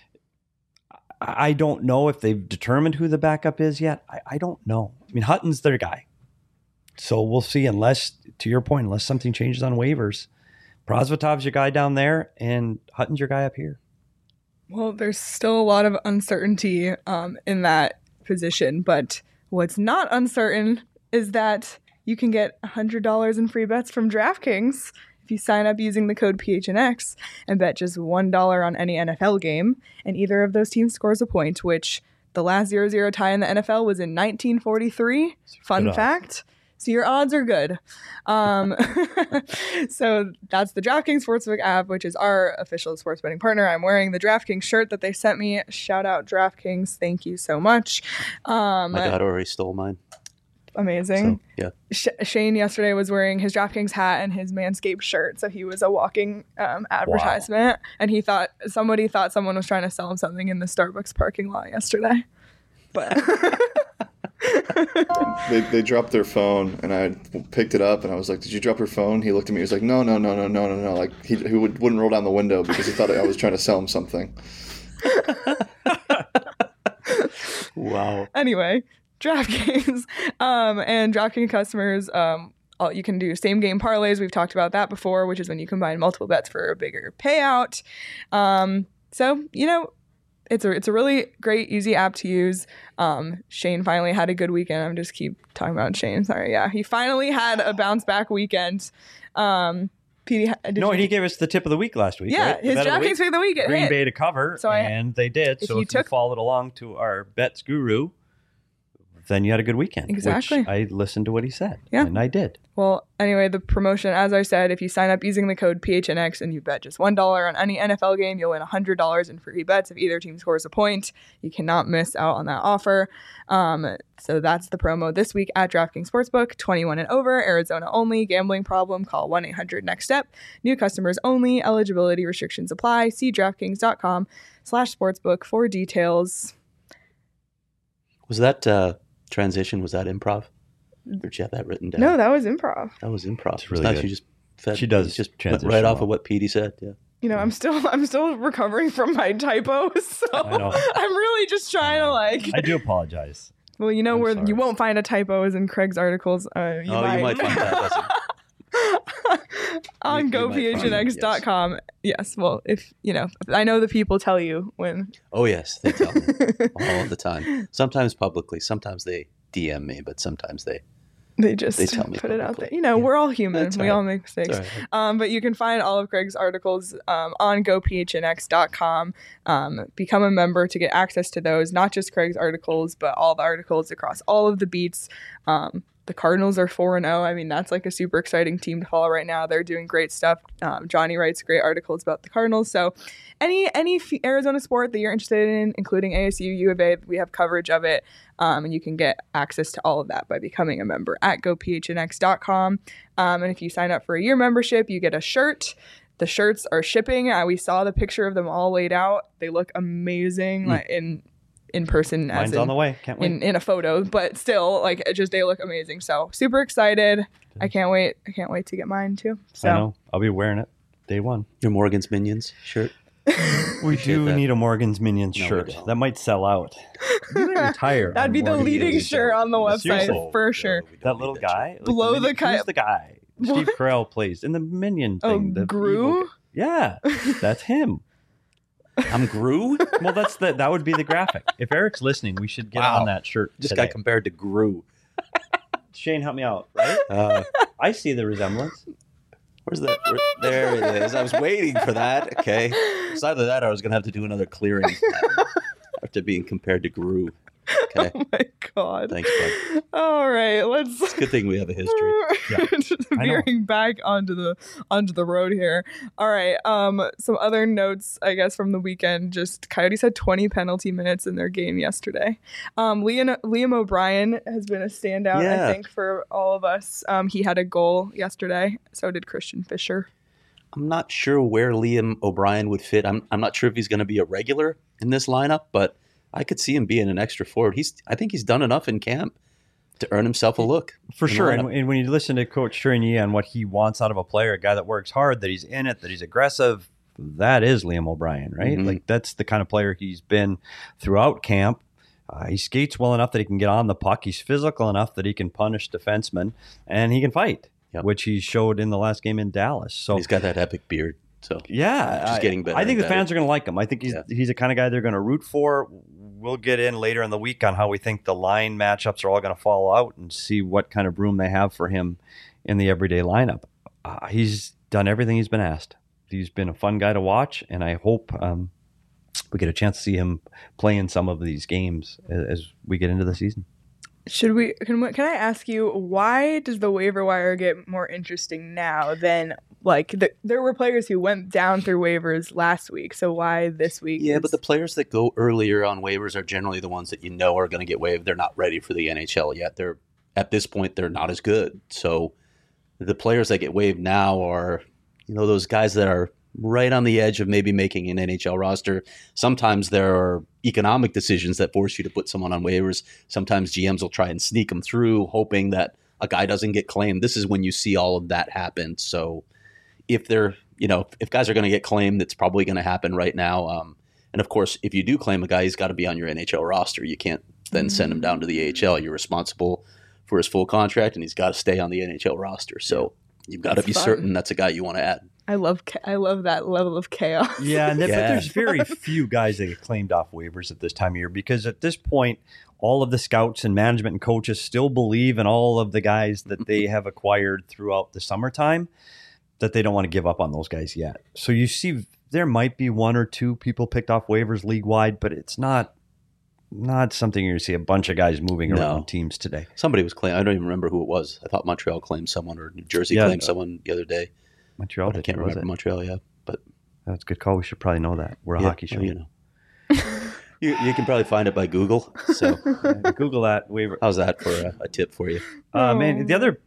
Speaker 3: I don't know if they've determined who the backup is yet. I don't know. I mean, Hutton's their guy. So we'll see, unless, to your point, unless something changes on waivers. Prosvetov's your guy down there, and Hutton's your guy up here.
Speaker 1: Well, there's still a lot of uncertainty in that position, but what's not uncertain is that you can get $100 in free bets from DraftKings if you sign up using the code PHNX and bet just $1 on any NFL game, and either of those teams scores a point, which the last 0-0 tie in the NFL was in 1943. Fun fact. So your odds are good. So that's the DraftKings Sportsbook app, which is our official sports betting partner. I'm wearing the DraftKings shirt that they sent me. Shout out DraftKings. Thank you so much.
Speaker 2: My daughter already stole mine.
Speaker 1: Amazing.
Speaker 2: So, yeah.
Speaker 1: Shane yesterday was wearing his DraftKings hat and his Manscaped shirt. So he was a walking advertisement. Wow. And somebody thought someone was trying to sell him something in the Starbucks parking lot yesterday. But...
Speaker 7: They dropped their phone, and I picked it up, and I was like, "Did you drop your phone?" He looked at me. He was like, "No." Like he wouldn't roll down the window because he thought I was trying to sell him something.
Speaker 2: Wow.
Speaker 1: Anyway, DraftKings and DraftKings customers, you can do same game parlays. We've talked about that before, which is when you combine multiple bets for a bigger payout. So it's a really great, easy app to use. Shane finally had a good weekend. I'm just keep talking about Shane. Sorry. Yeah. He finally had a bounce back weekend. PD,
Speaker 3: he gave us the tip of the week last week.
Speaker 1: Yeah.
Speaker 3: Right?
Speaker 1: His DraftKings pick of the week.
Speaker 3: Green Bay to cover. And they did. So if you followed along to our bets guru, then you had a good weekend.
Speaker 1: Exactly.
Speaker 3: Which I listened to what he said.
Speaker 1: Yeah.
Speaker 3: And I did.
Speaker 1: Well, anyway, the promotion, as I said, if you sign up using the code PHNX and you bet just $1 on any NFL game, you'll win $100 in free bets if either team scores a point. You cannot miss out on that offer. So that's the promo this week at DraftKings Sportsbook. 21 and over, Arizona only. Gambling problem? Call 1-800-NEXT-STEP. New customers only. Eligibility restrictions apply. See DraftKings.com/sportsbook for details.
Speaker 2: Was that transition? Was that improv? Or did you have that written down?
Speaker 1: No, that was improv.
Speaker 2: That was improv.
Speaker 3: It's really good.
Speaker 2: She
Speaker 3: does
Speaker 2: just
Speaker 3: transition
Speaker 2: right off
Speaker 3: well.
Speaker 2: of what Petey said. Yeah.
Speaker 1: I'm still recovering from my typos, so
Speaker 3: I know.
Speaker 1: I'm really just trying to
Speaker 3: I do apologize.
Speaker 1: Well, where you won't find a typo is in Craig's articles. You might
Speaker 2: find that.
Speaker 1: On gophnx.com. Yes. Well, if I know the people tell you when.
Speaker 2: Oh yes, they tell me all the time. Sometimes publicly, sometimes they DM me, but sometimes they
Speaker 1: just
Speaker 2: tell me
Speaker 1: put it out there.
Speaker 2: publicly.
Speaker 1: We're all human.
Speaker 2: That's
Speaker 1: we
Speaker 2: right.
Speaker 1: all make mistakes.
Speaker 2: Right.
Speaker 1: But you can find all of Craig's articles on gophnx.com. Become a member to get access to those, not just Craig's articles, but all the articles across all of the beats. The Cardinals are 4-0. I mean, that's like a super exciting team to follow right now. They're doing great stuff. Johnny writes great articles about the Cardinals. So any Arizona sport that you're interested in, including ASU, U of A, we have coverage of it. And you can get access to all of that by becoming a member at gophnx.com. And if you sign up for a year membership, you get a shirt. The shirts are shipping. We saw the picture of them all laid out. They look amazing. Like in person.
Speaker 3: Mine's on the way. Can't wait.
Speaker 1: In a photo, but still, they look amazing. So super excited. I can't wait to get mine too. So
Speaker 3: I know. I'll be wearing it day one.
Speaker 2: Your Morgan's Minions shirt.
Speaker 3: We do need a Morgan's Minions shirt.
Speaker 2: we don't.
Speaker 3: That might sell out. You might retire.
Speaker 1: that'd be the
Speaker 3: Morgan's
Speaker 1: leading
Speaker 3: Minions
Speaker 1: shirt on the website
Speaker 3: Seriously.
Speaker 1: for sure.
Speaker 3: That little guy.
Speaker 1: Blow the kite.
Speaker 3: Who's the guy? Steve Carell plays in the Minion thing. The
Speaker 1: Gru?
Speaker 3: evil guy. Yeah, that's him.
Speaker 2: I'm Gru?
Speaker 3: Well, that would be the graphic. If Eric's listening, we should get on that shirt.
Speaker 2: Just
Speaker 3: today.
Speaker 2: got compared to Gru.
Speaker 3: Shane, help me out. Right? I see the resemblance.
Speaker 2: Where's that? There it is. I was waiting for that. Okay. Besides that, I was going to have to do another clearing after being compared to Gru. Okay.
Speaker 1: Oh my God.
Speaker 2: Thanks, bud.
Speaker 1: All right, let's.
Speaker 2: Good thing we have a history.
Speaker 1: Just veering back onto the road here. All right. Some other notes, I guess, from the weekend. Just Coyotes had 20 penalty minutes in their game yesterday. Liam O'Brien has been a standout,
Speaker 2: Yeah.
Speaker 1: I think, for all of us. He had a goal yesterday. So did Christian Fischer.
Speaker 2: I'm not sure where Liam O'Brien would fit. I'm not sure if he's going to be a regular in this lineup, but I could see him being an extra forward. I think he's done enough in camp to earn himself a look.
Speaker 3: For
Speaker 2: in the
Speaker 3: sure.
Speaker 2: lineup.
Speaker 3: And when you listen to Coach Tourigny on what he wants out of a player, a guy that works hard, that he's in it, that he's aggressive, that is Liam O'Brien, right?
Speaker 2: Mhm.
Speaker 3: Like that's the kind of player he's been throughout camp. He skates well enough that he can get on the puck. He's physical enough that he can punish defensemen, and he can fight,
Speaker 2: Yep.
Speaker 3: which he showed in the last game in Dallas. So
Speaker 2: He's got that epic beard. So
Speaker 3: yeah,
Speaker 2: Just getting better
Speaker 3: I think
Speaker 2: and
Speaker 3: the fans
Speaker 2: better.
Speaker 3: are going to like him. I think he's the kind of guy they're going to root for. We'll get in later in the week on how we think the line matchups are all going to fall out and see what kind of room they have for him in the everyday lineup. He's done everything he's been asked. He's been a fun guy to watch, and I hope we get a chance to see him play in some of these games as we get into the season.
Speaker 1: Can I ask you, why does the waiver wire get more interesting now than there were players who went down through waivers last week, so why this week?
Speaker 2: yeah, but the players that go earlier on waivers are generally the ones that you know are going to get waived. They're not ready for the NHL yet. At this point, they're not as good. So the players that get waived now are, those guys that are right on the edge of maybe making an NHL roster. Sometimes there are economic decisions that force you to put someone on waivers. Sometimes GMs will try and sneak them through, hoping that a guy doesn't get claimed. This is when you see all of that happen. So if if guys are going to get claimed, it's probably going to happen right now. And of course, if you do claim a guy, he's got to be on your NHL roster. You can't then send him down to the AHL. You're responsible for his full contract, and he's got to stay on the NHL roster. So you've got to be certain that's a guy you want to add.
Speaker 1: I love that level of chaos.
Speaker 3: Yeah, but
Speaker 2: Yeah.
Speaker 3: there's very few guys that get claimed off waivers at this time of year because at this point, all of the scouts and management and coaches still believe in all of the guys that they have acquired throughout the summertime, that they don't want to give up on those guys yet. So you see there might be one or two people picked off waivers league-wide, but it's not something you're going to see a bunch of guys moving around teams today.
Speaker 2: Somebody was claimed. I don't even remember who it was. I thought Montreal claimed someone or New Jersey claimed someone the other day.
Speaker 3: Montreal,
Speaker 2: But I can't remember Montreal, yeah. But
Speaker 3: that's a good call. We should probably know that. We're a hockey show.
Speaker 2: well, you can probably find it by Google. So
Speaker 3: Google that waiver.
Speaker 2: how's that for a tip for you?
Speaker 3: Man, the other,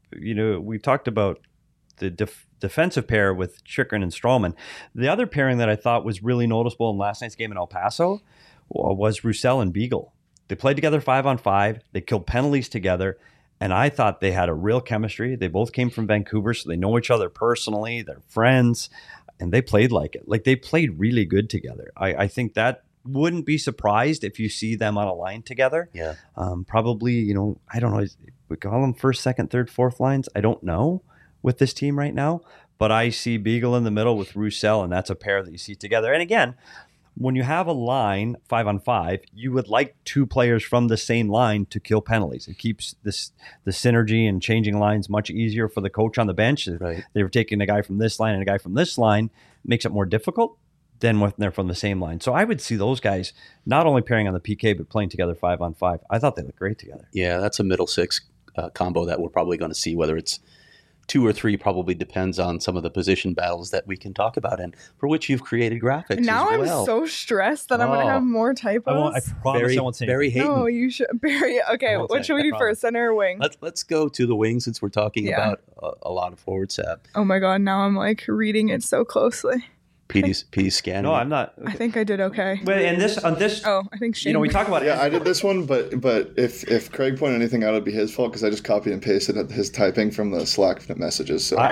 Speaker 3: we talked about the defensive pair with Chychrun and Strawman. The other pairing that I thought was really noticeable in last night's game in El Paso was Roussel and Beagle. They played together 5-on-5. They killed penalties together. And I thought they had a real chemistry. They both came from Vancouver, so they know each other personally. They're friends, and they played like it. Like, they played really good together. I think that wouldn't be surprised if you see them on a line together.
Speaker 2: Yeah.
Speaker 3: Probably, I don't know. We call them first, second, third, fourth lines. I don't know with this team right now. But I see Beagle in the middle with Roussel, and that's a pair that you see together. And again, when you have a line 5-on-5, you would like two players from the same line to kill penalties. It keeps the synergy and changing lines much easier for the coach on the bench.
Speaker 2: Right.
Speaker 3: They were taking a guy from this line and a guy from this line, makes it more difficult than when they're from the same line. So I would see those guys not only pairing on the PK, but playing together 5-on-5. I thought they looked great together.
Speaker 2: Yeah, that's a middle six combo that we're probably going to see. Whether it's 2 or 3 probably depends on some of the position battles that we can talk about, and for which you've created graphics
Speaker 1: Now
Speaker 2: as
Speaker 1: I'm
Speaker 2: well.
Speaker 1: so stressed that I'm going to have more typos.
Speaker 3: I promise I won't say
Speaker 2: Barry
Speaker 3: anything.
Speaker 2: Hayton.
Speaker 1: No, you should. Barry, okay,
Speaker 3: won't
Speaker 1: what
Speaker 3: say
Speaker 1: should we
Speaker 3: it, I
Speaker 1: do first? Center or wing?
Speaker 2: Let's go to the wing since we're talking
Speaker 1: Yeah.
Speaker 2: about a lot of forward sap.
Speaker 1: Oh my God, now I'm reading it so closely.
Speaker 2: Petey's scanning.
Speaker 3: No, I'm not.
Speaker 1: I think I did okay.
Speaker 3: But and on this,
Speaker 1: Oh, I think Shane.
Speaker 3: we talk about
Speaker 7: Yeah, I did this one, but if Craig pointed anything out, it'd be his fault because I just copy and pasted his typing from the Slack messages. So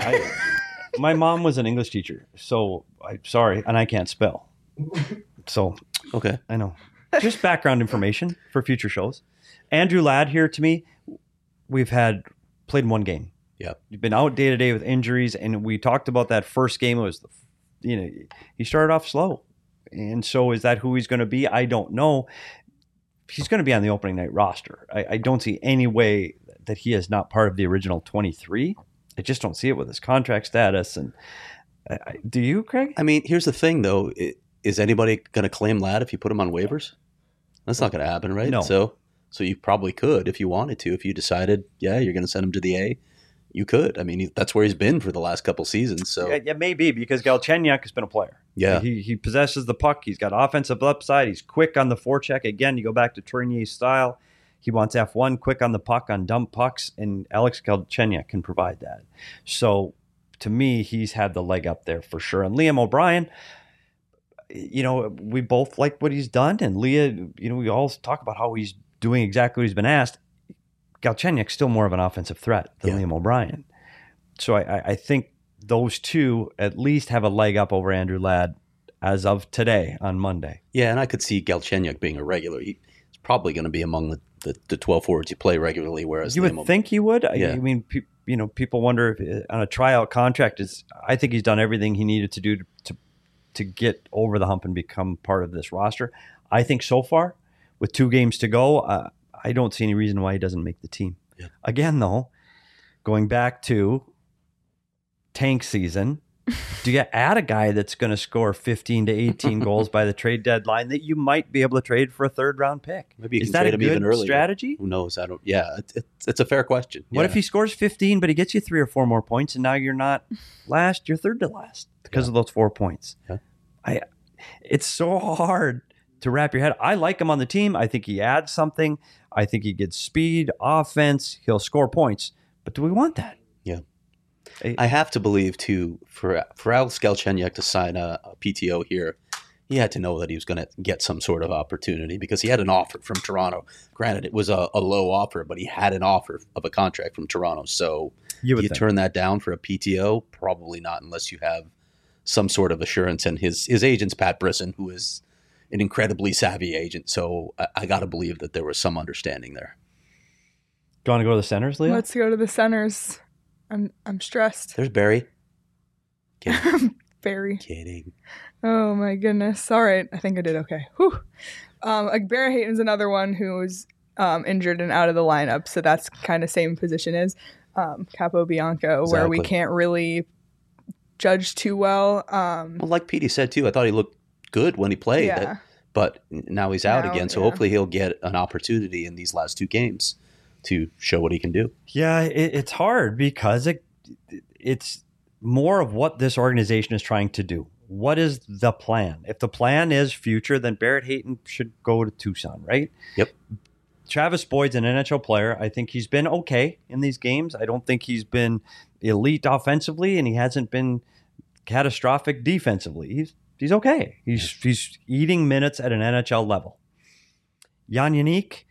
Speaker 3: my mom was an English teacher, so I'm sorry, and I can't spell. So
Speaker 2: Okay.
Speaker 3: I know. Just background information for future shows. Andrew Ladd here to me. We've played one game.
Speaker 2: Yeah.
Speaker 3: You've been out day to day with injuries, and we talked about that first game. It was he started off slow, and so is that who he's going to be? I don't know. He's going to be on the opening night roster. I don't see any way that he is not part of the original 23. I just don't see it with his contract status. And do you, Craig?
Speaker 2: I mean, here's the thing, though. Is anybody going to claim Ladd if you put him on waivers? That's not going to happen, right?
Speaker 3: No.
Speaker 2: So So you probably could if you wanted to. If you decided, yeah, you're going to send him to the A, you could. I mean, that's where he's been for the last couple seasons. So
Speaker 3: Yeah, maybe because Galchenyuk has been a player.
Speaker 2: Yeah.
Speaker 3: He possesses the puck. He's got offensive upside. He's quick on the forecheck. Again, you go back to Tournier's style. He wants F1, quick on the puck, on dump pucks, and Alex Galchenyuk can provide that. So to me, he's had the leg up there for sure. And Liam O'Brien, we both like what he's done. And Leah, we all talk about how he's doing exactly what he's been asked. Galchenyuk's still more of an offensive threat than Liam O'Brien. So I think those two at least have a leg up over Andrew Ladd as of today on Monday.
Speaker 2: Yeah, and I could see Galchenyuk being a regular. He's probably going to be among the 12 forwards you play regularly, whereas
Speaker 3: you would think he would.
Speaker 2: Yeah.
Speaker 3: I mean, people wonder if on a tryout contract I think he's done everything he needed to do to get over the hump and become part of this roster. I think so far, with 2 games to go, I don't see any reason why he doesn't make the team.
Speaker 2: Yeah.
Speaker 3: Again, though, going back to tank season, do you add a guy that's going to score 15 to 18 goals by the trade deadline that you might be able to trade for a 3rd-round pick?
Speaker 2: Maybe you
Speaker 3: Is
Speaker 2: can
Speaker 3: that
Speaker 2: trade
Speaker 3: a
Speaker 2: him even
Speaker 3: good
Speaker 2: earlier.
Speaker 3: strategy?
Speaker 2: Who knows? I don't. Yeah, it's a fair question.
Speaker 3: What if he scores 15, but he gets you 3 or 4 more points, and now you're not last, you're 3rd to last because of those 4 points?
Speaker 2: Yeah.
Speaker 3: It's so hard to wrap your head. I like him on the team. I think he adds something. I think he gets speed, offense. He'll score points. But do we want that?
Speaker 2: Yeah. I have to believe, too, for Alex Galchenyuk to sign a PTO here, he had to know that he was going to get some sort of opportunity because he had an offer from Toronto. Granted, it was a low offer, but he had an offer of a contract from Toronto. So you turn that down for a PTO? Probably not, unless you have some sort of assurance. And his agent's Pat Brisson, who is an incredibly savvy agent. So I got to believe that there was some understanding there.
Speaker 3: Do you want to go to the centers, Leah?
Speaker 1: Let's go to the centers. I'm stressed.
Speaker 2: There's Barry. Kidding.
Speaker 1: Barry.
Speaker 2: Kidding.
Speaker 1: Oh my goodness. All right. I think I did okay. Whew. Barry Hayton's another one who's injured and out of the lineup. So that's kind of same position as Capobianco, where we can't really judge too well.
Speaker 2: Well, like Petey said too, I thought he looked good when he played.
Speaker 1: Yeah.
Speaker 2: But now he's out again. So hopefully he'll get an opportunity in these last 2 games to show what he can do.
Speaker 3: Yeah, it's hard because it's more of what this organization is trying to do. What is the plan? If the plan is future, then Barrett Hayton should go to Tucson, right?
Speaker 2: Yep.
Speaker 3: Travis Boyd's an NHL player. I think he's been okay in these games. I don't think he's been elite offensively, and he hasn't been catastrophic defensively. He's okay. He's eating minutes at an NHL level. Jan Yannick,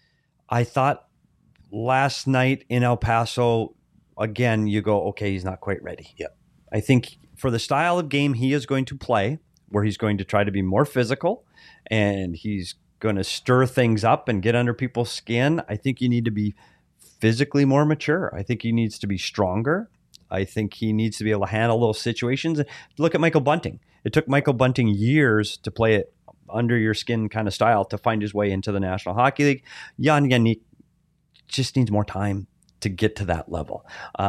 Speaker 3: I thought last night in El Paso, again, you go, okay, he's not quite ready.
Speaker 2: Yeah.
Speaker 3: I think for the style of game he is going to play, where he's going to try to be more physical and he's going to stir things up and get under people's skin, I think you need to be physically more mature. I think he needs to be stronger. I think he needs to be able to handle those situations. Look at Michael Bunting. It took Michael Bunting years to play it under your skin kind of style to find his way into the National Hockey League. Jan Yannick just needs more time to get to that level.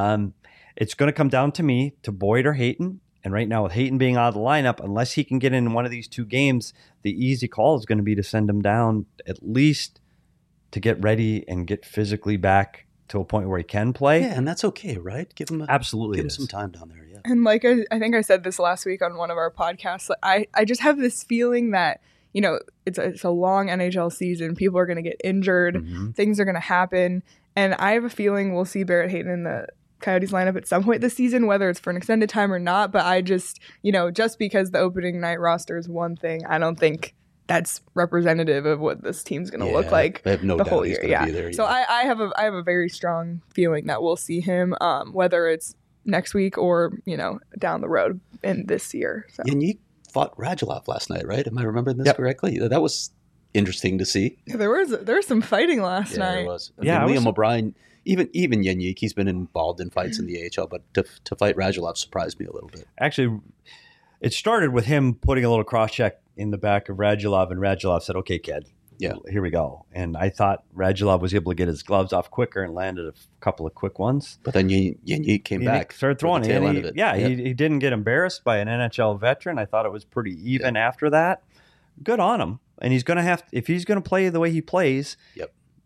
Speaker 3: It's going to come down to me, to Boyd or Hayton. And right now with Hayton being out of the lineup, unless he can get in one of these 2 games, the easy call is going to be to send him down at least to get ready and get physically back to a point where he can play.
Speaker 2: Yeah, and that's okay, right? Give him some time down there. Yeah.
Speaker 1: And like I think I said this last week on one of our podcasts, I just have this feeling that, it's a long NHL season. People are going to get injured.
Speaker 2: Mm-hmm.
Speaker 1: Things are going to happen. And I have a feeling we'll see Barrett Hayton in the Coyotes lineup at some point this season, whether it's for an extended time or not. But I just, just because the opening night roster is one thing, I don't think that's representative of what this team's going to look like
Speaker 2: I have no
Speaker 1: the
Speaker 2: doubt
Speaker 1: whole
Speaker 2: he's
Speaker 1: year.
Speaker 2: gonna be there,
Speaker 1: So I have a very strong feeling that we'll see him, whether it's next week or, down the road in this year. So.
Speaker 2: And you fought Radulov last night, right? Am I remembering this correctly? That was interesting to see.
Speaker 1: Yeah, there was some fighting last night.
Speaker 2: There was. Liam O'Brien, even Yannick, he's been involved in fights in the AHL, but to fight Radulov surprised me a little bit.
Speaker 3: Actually, it started with him putting a little cross-check in the back of Radulov, and Radulov said, okay, kid, here we go. And I thought Radulov was able to get his gloves off quicker and landed a couple of quick ones.
Speaker 2: But then Yannick came back.
Speaker 3: Started throwing
Speaker 2: it.
Speaker 3: He didn't get embarrassed by an NHL veteran. I thought it was pretty even after that. Good on him. And he's going to if he's going to play the way he plays,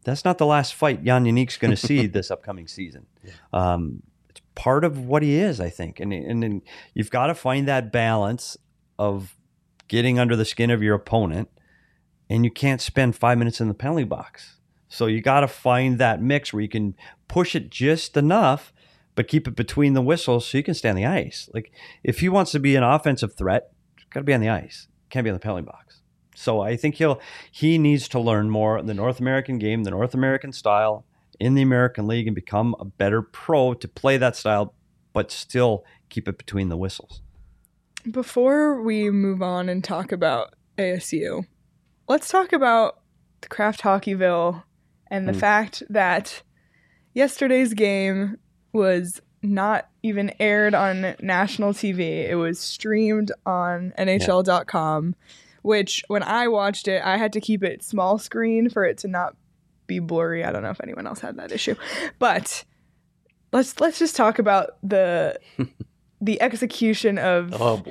Speaker 3: that's not the last fight Jan Yannick's going to see this upcoming season. It's part of what he is, I think. And then you've got to find that balance of getting under the skin of your opponent, and you can't spend 5 minutes in the penalty box. So you got to find that mix where you can push it just enough, but keep it between the whistles so you can stay on the ice. Like, if he wants to be an offensive threat, he's got to be on the ice. Can't be on the penalty box. So I think he needs to learn more the North American game, the North American style in the American League, and become a better pro to play that style, but still keep it between the whistles.
Speaker 1: Before we move on and talk about ASU, let's talk about the Kraft Hockeyville and the fact that yesterday's game was not even aired on national TV. It was streamed on NHL.com, which when I watched it, I had to keep it small screen for it to not be blurry. I don't know if anyone else had that issue. But let's just talk about the execution of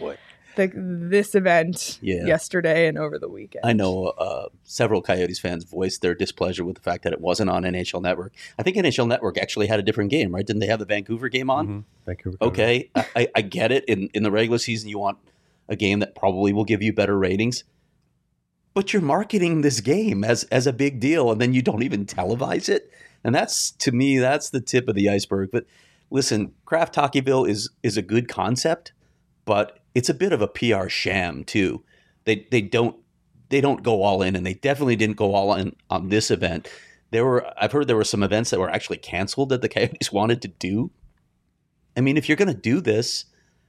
Speaker 1: this event yesterday and over the weekend.
Speaker 2: I know several Coyotes fans voiced their displeasure with the fact that it wasn't on NHL Network. I think NHL Network actually had a different game, right? Didn't they have the Vancouver game on?
Speaker 3: Mm-hmm. Vancouver.
Speaker 2: Okay, I get it. In the regular season, you want a game that probably will give you better ratings. But you're marketing this game as a big deal, and then you don't even televise it. And that's, to me, that's the tip of the iceberg. But listen, Kraft Hockeyville is a good concept, but it's a bit of a PR sham too. They don't go all in, and they definitely didn't go all in on this event. I've heard there were some events that were actually canceled that the Coyotes wanted to do. I mean, if you're going to do this,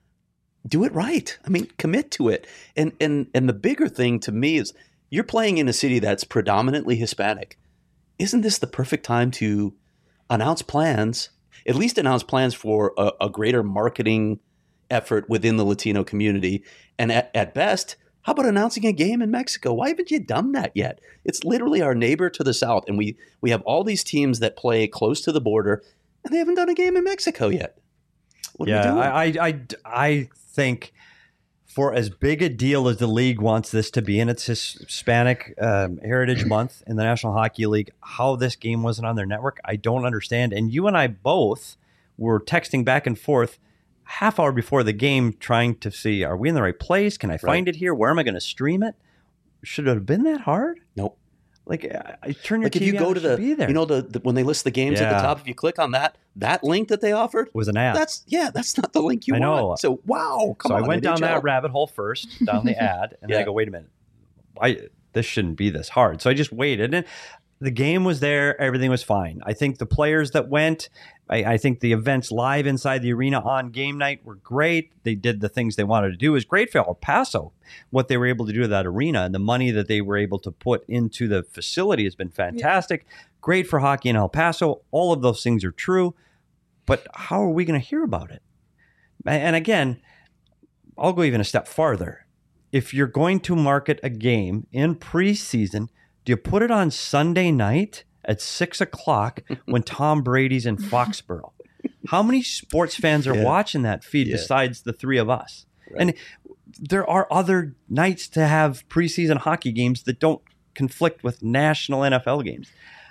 Speaker 2: do it right. I mean, commit to it. And the bigger thing to me is you're playing in a city that's predominantly Hispanic. Isn't this the perfect time to announce plans, at least announce plans for a greater marketing effort within the Latino community? And at best, how about announcing a game in Mexico? Why haven't you done that yet? It's literally our neighbor to the south, and we have all these teams that play close to the border, and they haven't done a game in Mexico yet. What are we doing?
Speaker 3: I think for as big a deal as the league wants this to be, and it's Hispanic Heritage Month in the National Hockey League, how this game wasn't on their network, I don't understand. And you and I both were texting back and forth half hour before the game trying to see, are we in the right place? Can I find it here? Where am I going to stream it? Should it have been that hard?
Speaker 2: Nope.
Speaker 3: Like, I turn your
Speaker 2: like
Speaker 3: TV
Speaker 2: if you go
Speaker 3: on,
Speaker 2: to
Speaker 3: it should be there.
Speaker 2: you know, when they list the games at the top, if you click on that link that they offered,
Speaker 3: was an ad.
Speaker 2: That's not the link you
Speaker 3: I know.
Speaker 2: want. So wow, come on.
Speaker 3: So I went down
Speaker 2: NHL.
Speaker 3: that rabbit hole first, down the ad, and then I go, wait a minute, this shouldn't be this hard. So I just waited, and the game was there. Everything was fine. I think the players that went, I think the events live inside the arena on game night were great. They did the things they wanted to do. It was great for El Paso, what they were able to do to that arena, and the money that they were able to put into the facility has been fantastic. Yeah. Great for hockey in El Paso. All of those things are true. But how are we going to hear about it? And again, I'll go even a step farther. If you're going to market a game in preseason, do you put it on Sunday night at 6 o'clock when Tom Brady's in Foxborough? How many sports fans are watching that feed besides the three of us? Right. And there are other nights to have preseason hockey games that don't conflict with national NFL games.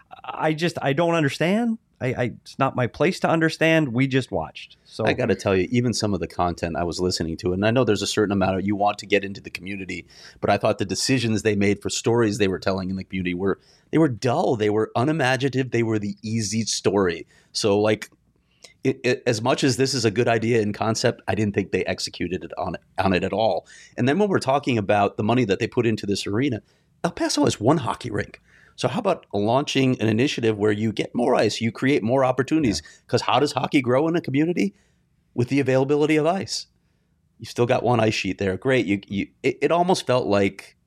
Speaker 3: I don't understand. It's not my place to understand. We just watched. So
Speaker 2: I got to tell you, even some of the content I was listening to, and I know there's a certain amount of you want to get into the community, but I thought the decisions they made for stories they were telling in the community were dull. They were unimaginative. They were the easy story. So like, as much as this is a good idea in concept, I didn't think they executed it on it at all. And then when we're talking about the money that they put into this arena, El Paso has one hockey rink. So how about launching an initiative where you get more ice, you create more opportunities? Because how does hockey grow in a community? With the availability of ice. You still got one ice sheet there. Great. It almost felt like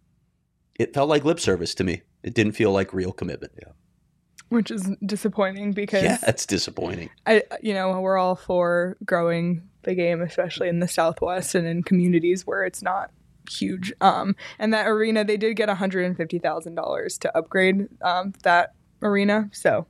Speaker 2: lip service to me. It didn't feel like real commitment. Yeah.
Speaker 1: Which is disappointing because
Speaker 2: it's disappointing.
Speaker 1: We're all for growing the game, especially in the Southwest and in communities where it's not huge. And that arena, they did get $150,000 to upgrade that arena. So,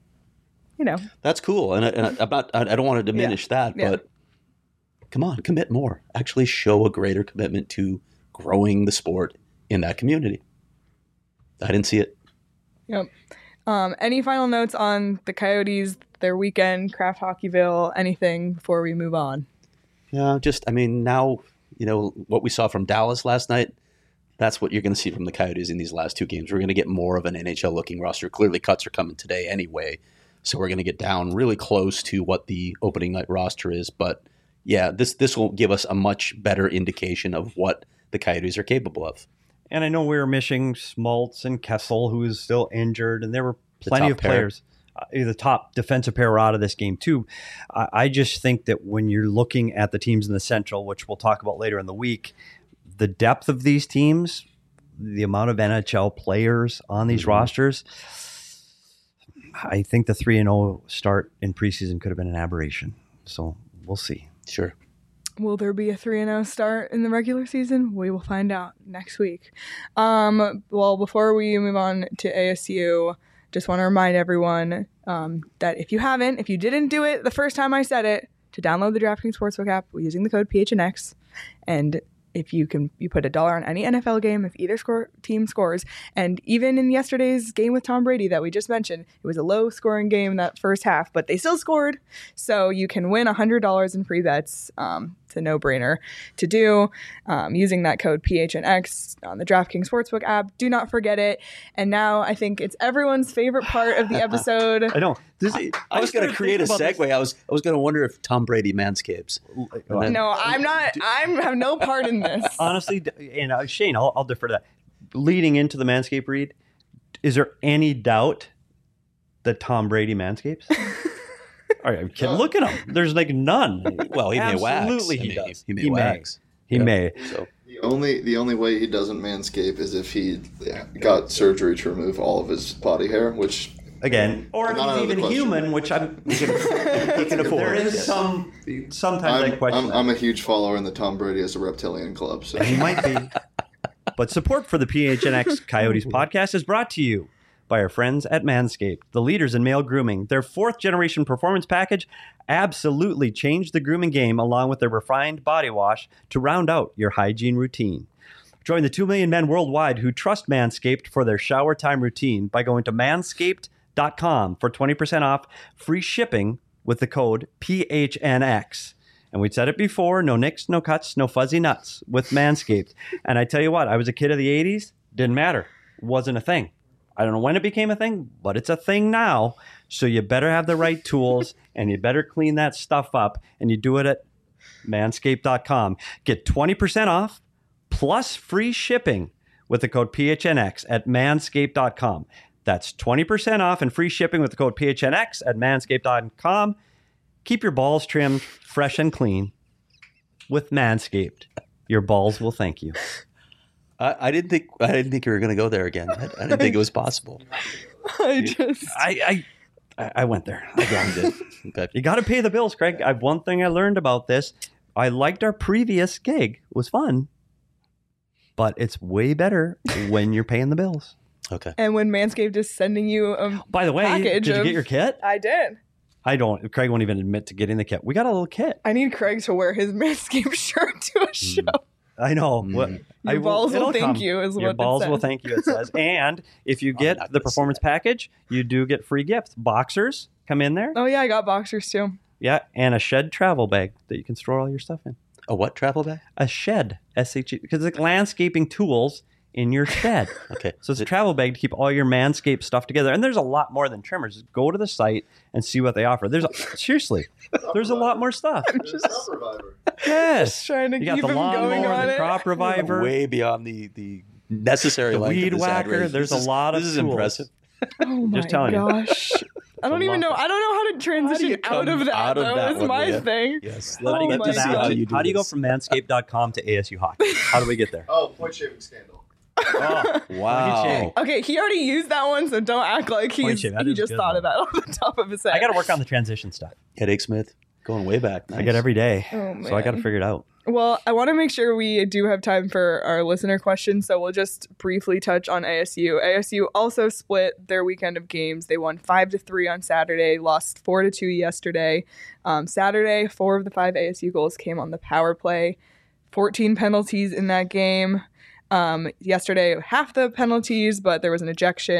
Speaker 2: that's cool. And I don't want to diminish that, but come on, commit more. Actually show a greater commitment to growing the sport in that community. I didn't see it.
Speaker 1: Yep. Any final notes on the Coyotes, their weekend, Kraft Hockeyville, anything before we move on?
Speaker 2: Yeah, now, what we saw from Dallas last night, that's what you're going to see from the Coyotes in these last two games. We're going to get more of an NHL-looking roster. Clearly, cuts are coming today anyway, so we're going to get down really close to what the opening night roster is. But, yeah, this will give us a much better indication of what the Coyotes are capable of.
Speaker 3: And I know we were missing Schmaltz and Kessel, who is still injured, and there were plenty of players. The top defensive pair out of this game, too. I just think that when you're looking at the teams in the Central, which we'll talk about later in the week, the depth of these teams, the amount of NHL players on these rosters, I think the 3-0 start in preseason could have been an aberration. So we'll see.
Speaker 2: Sure.
Speaker 1: Will there be a 3-0 start in the regular season? We will find out next week. Well, before we move on to ASU, just want to remind everyone that if you didn't do it the first time I said it, to download the DraftKings Sportsbook app using the code PHNX. And if you put $1 on any NFL game, if either team scores. And even in yesterday's game with Tom Brady that we just mentioned, it was a low scoring game that first half, but they still scored. So you can win $100 in free bets. It's a no-brainer to do using that code PHNX on the DraftKings Sportsbook app. Do not forget it. And now I think it's everyone's favorite part of the episode.
Speaker 3: I know.
Speaker 2: I was going to create a segue. I was going to wonder if Tom Brady manscapes.
Speaker 1: No, I'm not. I have no part in this.
Speaker 3: Honestly, and Shane, I'll defer to that. Leading into the Manscaped read, is there any doubt that Tom Brady manscapes? All right, kid, look at him. There's like none.
Speaker 2: Well, he may wax.
Speaker 3: Absolutely, he does.
Speaker 2: He may wax.
Speaker 3: He may.
Speaker 2: So
Speaker 7: The only way he doesn't manscape is if he got surgery to remove all of his body hair, which
Speaker 3: again, or if
Speaker 7: not out
Speaker 3: he's
Speaker 7: of the
Speaker 3: even
Speaker 7: question.
Speaker 3: human, which he can afford. There is sometimes I question.
Speaker 7: I'm a huge follower in the Tom Brady as a reptilian club. So
Speaker 3: He might be. But support for the PHNX Coyotes podcast is brought to you by our friends at Manscaped, the leaders in male grooming. Their 4th generation performance package absolutely changed the grooming game, along with their refined body wash to round out your hygiene routine. Join the 2 million men worldwide who trust Manscaped for their shower time routine by going to manscaped.com for 20% off free shipping with the code PHNX. And we said it before, no nicks, no cuts, no fuzzy nuts with Manscaped. And I tell you what, I was a kid of the 80s, didn't matter. Wasn't a thing. I don't know when it became a thing, but it's a thing now. So you better have the right tools and you better clean that stuff up. And you do it at manscaped.com. Get 20% off plus free shipping with the code PHNX at manscaped.com. That's 20% off and free shipping with the code PHNX at manscaped.com. Keep your balls trimmed, fresh and clean with Manscaped. Your balls will thank you.
Speaker 2: I didn't think you were going to go there again. I didn't think it was possible.
Speaker 3: I went there. I grounded it.
Speaker 2: Okay.
Speaker 3: You got to pay the bills, Craig. One thing I learned about this, I liked our previous gig. It was fun. But it's way better when you're paying the bills.
Speaker 2: Okay.
Speaker 1: And when Manscaped is sending you a
Speaker 3: By the way,
Speaker 1: package
Speaker 3: did you get your kit?
Speaker 1: I did.
Speaker 3: I don't. Craig won't even admit to getting the kit. We got a little kit.
Speaker 1: I need Craig to wear his Manscaped shirt to a show.
Speaker 3: I know.
Speaker 1: Your balls will thank you is what it
Speaker 3: Your balls will
Speaker 1: says.
Speaker 3: thank you, it says. And if you get the performance package, you do get free gifts. Boxers come in there.
Speaker 1: Oh, yeah, I got boxers too.
Speaker 3: Yeah, and a Shed travel bag that you can store all your stuff in.
Speaker 2: A what travel bag?
Speaker 3: A Shed, S-H-E, because it's like landscaping tools in your shed.
Speaker 2: Okay.
Speaker 3: So it's a travel bag to keep all your Manscaped stuff together. And there's a lot more than trimmers. Just go to the site and see what they offer. Seriously, there's a lot more stuff. Yes.
Speaker 1: Trying to
Speaker 3: You got
Speaker 1: keep
Speaker 3: the
Speaker 1: him going
Speaker 3: lawnmower,
Speaker 1: on
Speaker 3: the
Speaker 1: it.
Speaker 3: crop reviver,
Speaker 2: Way beyond the necessary
Speaker 3: the
Speaker 2: length of
Speaker 3: weed
Speaker 2: this
Speaker 3: whacker.
Speaker 2: outrage.
Speaker 3: There's
Speaker 2: This
Speaker 3: a lot of
Speaker 2: This is
Speaker 3: tools.
Speaker 2: impressive.
Speaker 1: Oh my
Speaker 3: Just telling you.
Speaker 1: gosh. I don't even know. I don't know how to transition out of that.
Speaker 2: out of
Speaker 1: though,
Speaker 2: that
Speaker 1: is
Speaker 2: one,
Speaker 1: my
Speaker 2: yeah.
Speaker 1: thing.
Speaker 2: Yes.
Speaker 1: Oh
Speaker 2: Let
Speaker 1: my
Speaker 2: me see how
Speaker 1: God.
Speaker 2: you do
Speaker 3: How do you go
Speaker 2: this.
Speaker 3: from manscaped.com to ASU hockey? How do we get there?
Speaker 7: Oh, point shaving scandal.
Speaker 3: Oh,
Speaker 2: Wow.
Speaker 1: Okay, he already used that one, so don't act like
Speaker 3: Point shave, that
Speaker 1: he
Speaker 3: is
Speaker 1: just
Speaker 3: good,
Speaker 1: thought
Speaker 3: though.
Speaker 1: of that off the top of his head.
Speaker 3: I got to work on the transition stuff.
Speaker 2: Headache Smith, going way back. Nice.
Speaker 3: I get every day,
Speaker 1: Oh,
Speaker 3: so I got to
Speaker 1: man.
Speaker 3: figure it out.
Speaker 1: Well, I want to make sure we do have time for our listener questions, so we'll just briefly touch on ASU. ASU also split their weekend of games. They won 5-3 on Saturday, lost 4-2 yesterday. Saturday, 4 of the 5 ASU goals came on the power play. 14 penalties in that game. Yesterday, half the penalties, but there was an ejection.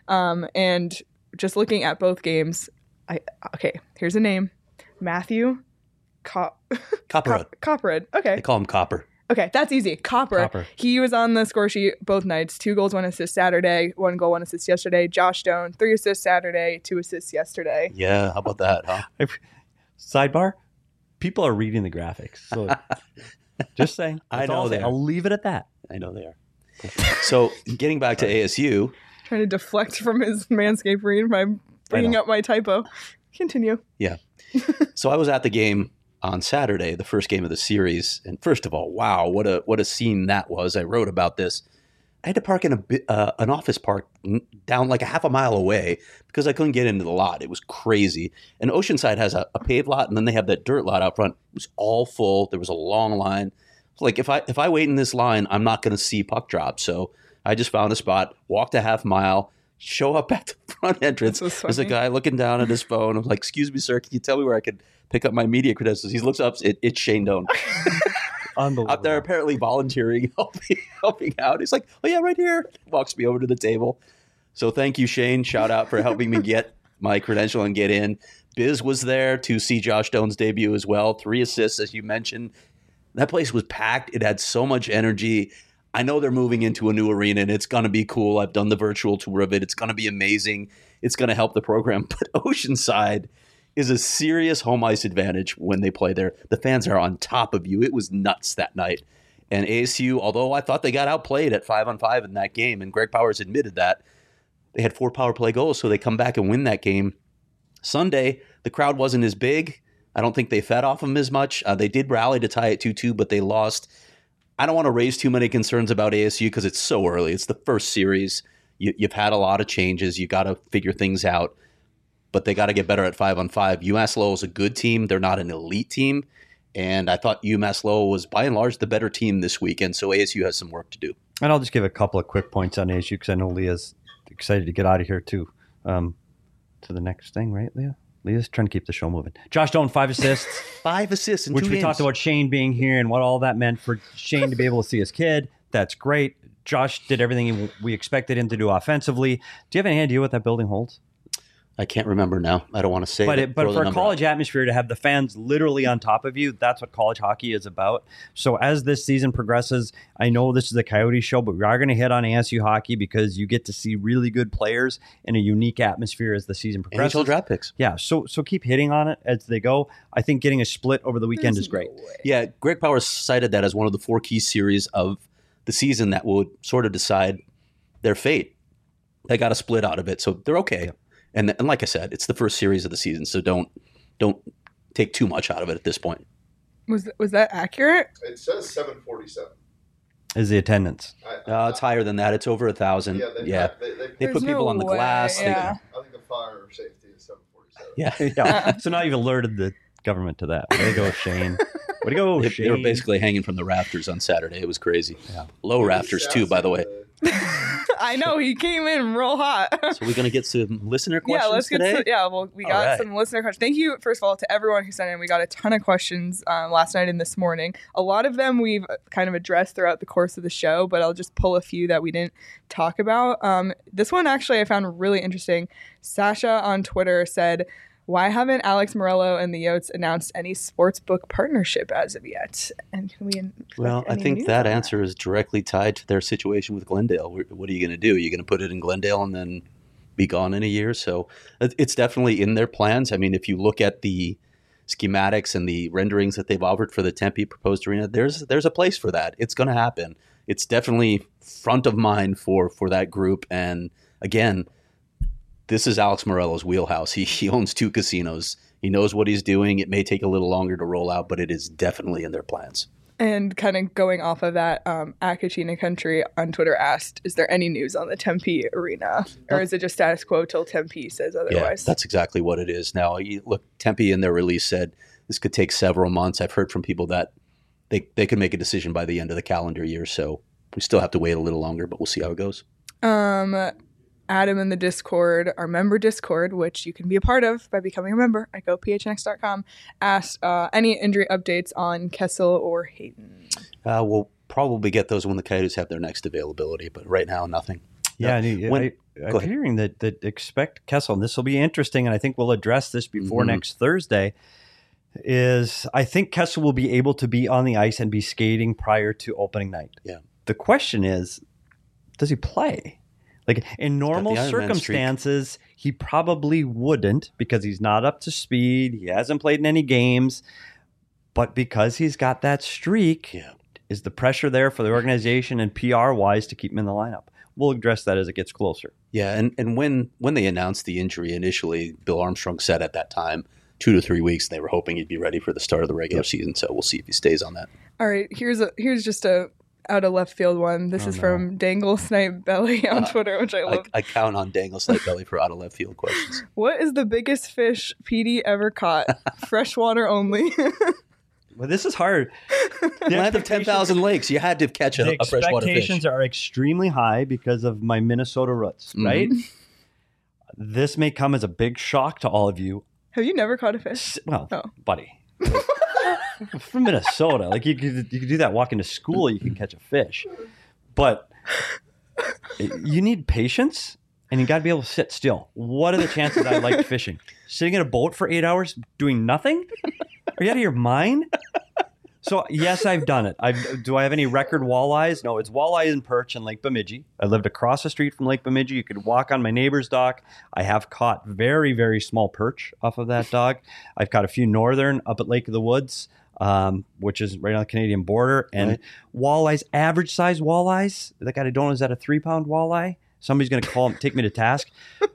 Speaker 1: And just looking at both games, here's a name. Matthew
Speaker 2: Copperhead.
Speaker 1: Copperhead. Okay.
Speaker 2: They call him Copper.
Speaker 1: Okay, that's easy. Copper. He was on the score sheet both nights. 2 goals, 1 assist Saturday. 1 goal, 1 assist yesterday. Josh Stone, 3 assists Saturday, 2 assists yesterday.
Speaker 2: Yeah, how about that, huh?
Speaker 3: Sidebar, people are reading the graphics. So just saying.
Speaker 2: I know they are.
Speaker 3: I'll leave it at that.
Speaker 2: I know they are. So getting back to ASU.
Speaker 1: Trying to deflect from his Manscaped read by bringing up my typo. Continue.
Speaker 2: Yeah. So I was at the game on Saturday, the first game of the series. And first of all, wow, what a scene that was. I wrote about this. I had to park in an office park down like a half a mile away because I couldn't get into the lot. It was crazy. And Oceanside has a paved lot, and then they have that dirt lot out front. It was all full. There was a long line. Like if I wait in this line, I'm not going to see puck drop. So I just found a spot, walked a half mile, show up at the front entrance. There's a guy looking down at his phone. I'm like, "Excuse me, sir, can you tell me where I could pick up my media credentials?" He looks up. It's Shane Doan. Out there apparently volunteering, helping out. He's like, "Oh yeah, right here." Walks me over to the table. So thank you, Shane. Shout out for helping me get my credential and get in. Biz was there to see Josh Stone's debut as well. 3 assists, as you mentioned. That place was packed. It had so much energy. I know they're moving into a new arena, and it's going to be cool. I've done the virtual tour of it. It's going to be amazing. It's going to help the program. But Oceanside is a serious home ice advantage when they play there. The fans are on top of you. It was nuts that night. And ASU, although I thought they got outplayed at 5-on-5 in that game, and Greg Powers admitted that, they had 4 power play goals, so they come back and win that game. Sunday, the crowd wasn't as big. I don't think they fed off them as much. They did rally to tie it 2-2, but they lost. I don't want to raise too many concerns about ASU because it's so early. It's the first series. You've had a lot of changes. You got to figure things out. But they got to get better at 5-on-5. UMass Lowell is a good team. They're not an elite team. And I thought UMass Lowell was by and large the better team this weekend. So ASU has some work to do.
Speaker 3: And I'll just give a couple of quick points on ASU because I know Leah's excited to get out of here too. To the next thing, right, Leah? Leah's trying to keep the show moving. Josh Stone, 5 assists.
Speaker 2: 5 assists in 2
Speaker 3: which
Speaker 2: games.
Speaker 3: We talked about Shane being here and what all that meant for Shane to be able to see his kid. That's great. Josh did everything we expected him to do offensively. Do you have any idea what that building holds?
Speaker 2: I can't remember now. I don't want to say
Speaker 3: but for a college atmosphere to have the fans literally on top of you, that's what college hockey is about. So as this season progresses, I know this is a Coyote show, but we are going to hit on ASU hockey because you get to see really good players in a unique atmosphere as the season progresses.
Speaker 2: NHL draft picks.
Speaker 3: Yeah, so keep hitting on it as they go. I think getting a split over the weekend is great.
Speaker 2: Yeah, Greg Powers cited that as one of the 4 key series of the season that would sort of decide their fate. They got a split out of it, so they're okay. Yeah. And like I said, it's the first series of the season, so don't take too much out of it at this point.
Speaker 1: Was that accurate?
Speaker 7: It says 747.
Speaker 3: Is the attendance?
Speaker 2: It's higher than that. It's over 1,000. Yeah, they put people on the glass.
Speaker 1: Yeah.
Speaker 7: I think the fire safety is 747.
Speaker 3: Yeah. So now you've alerted the government to that. Way to go, Shane. Way to go, Shane.
Speaker 2: They were basically hanging from the rafters on Saturday. It was crazy. Yeah. Low rafters too, by the way.
Speaker 1: I know, he came in real hot.
Speaker 2: So we're going to get some listener questions
Speaker 1: let's
Speaker 2: today?
Speaker 1: We got some listener questions. Thank you, first of all, to everyone who sent in. We got a ton of questions last night and this morning. A lot of them we've kind of addressed throughout the course of the show, but I'll just pull a few that we didn't talk about. This one actually I found really interesting. Sasha on Twitter said, "Why haven't Alex Morello and the Yotes announced any sportsbook partnership as of yet?" And can we?
Speaker 2: Well, I think that answer is directly tied to their situation with Glendale. What are you going to do? Are you going to put it in Glendale and then be gone in a year? So it's definitely in their plans. I mean, if you look at the schematics and the renderings that they've offered for the Tempe proposed arena, there's a place for that. It's going to happen. It's definitely front of mind for that group. And again, this is Alex Morello's wheelhouse. He owns 2 casinos. He knows what he's doing. It may take a little longer to roll out, but it is definitely in their plans.
Speaker 1: And kind of going off of that, Akachina Country on Twitter asked, "Is there any news on the Tempe arena? Or is it just status quo till Tempe says otherwise?"
Speaker 2: Yeah, that's exactly what it is. Now, look, Tempe in their release said this could take several months. I've heard from people that they could make a decision by the end of the calendar year. So we still have to wait a little longer, but we'll see how it goes.
Speaker 1: Adam in the Discord, our member Discord, which you can be a part of by becoming a member at gophnx.com, asked any injury updates on Kessel or Hayton.
Speaker 2: We'll probably get those when the Coyotes have their next availability, but right now, nothing.
Speaker 3: Yeah, I'm hearing that expect Kessel, and this will be interesting, and I think we'll address this before next Thursday, is I think Kessel will be able to be on the ice and be skating prior to opening night.
Speaker 2: Yeah.
Speaker 3: The question is, does he play? Like in normal circumstances, he probably wouldn't because he's not up to speed. He hasn't played in any games. But because he's got that streak, is the pressure there for the organization and PR-wise to keep him in the lineup? We'll address that as it gets closer.
Speaker 2: Yeah, and when they announced the injury initially, Bill Armstrong said at that time 2 to 3 weeks, they were hoping he'd be ready for the start of the regular season. So we'll see if he stays on that.
Speaker 1: All right, here's just a out of left field one. This is from Dangle Snipe Belly on Twitter, which I love.
Speaker 2: I count on Dangle Snipe Belly for out of left field questions.
Speaker 1: What is the biggest fish PD ever caught? Freshwater only.
Speaker 3: Well, this is hard.
Speaker 2: Land of 10,000 lakes. You had to catch a freshwater fish.
Speaker 3: The expectations are extremely high because of my Minnesota roots, right? This may come as a big shock to all of you.
Speaker 1: Have you never caught a fish?
Speaker 3: Well, buddy. From Minnesota. Like you could do that walking to school, you can catch a fish. But you need patience and you got to be able to sit still. What are the chances I liked fishing? Sitting in a boat for 8 hours doing nothing? Are you out of your mind? So, yes, I've done it. Do I have any record walleyes? No, it's walleye and perch in Lake Bemidji. I lived across the street from Lake Bemidji. You could walk on my neighbor's dock. I have caught very, very small perch off of that dock. I've caught a few northern up at Lake of the Woods, which is right on the Canadian border. And walleyes, average size walleyes, that guy I don't know, is that a 3-pound walleye? Somebody's going to take me to task.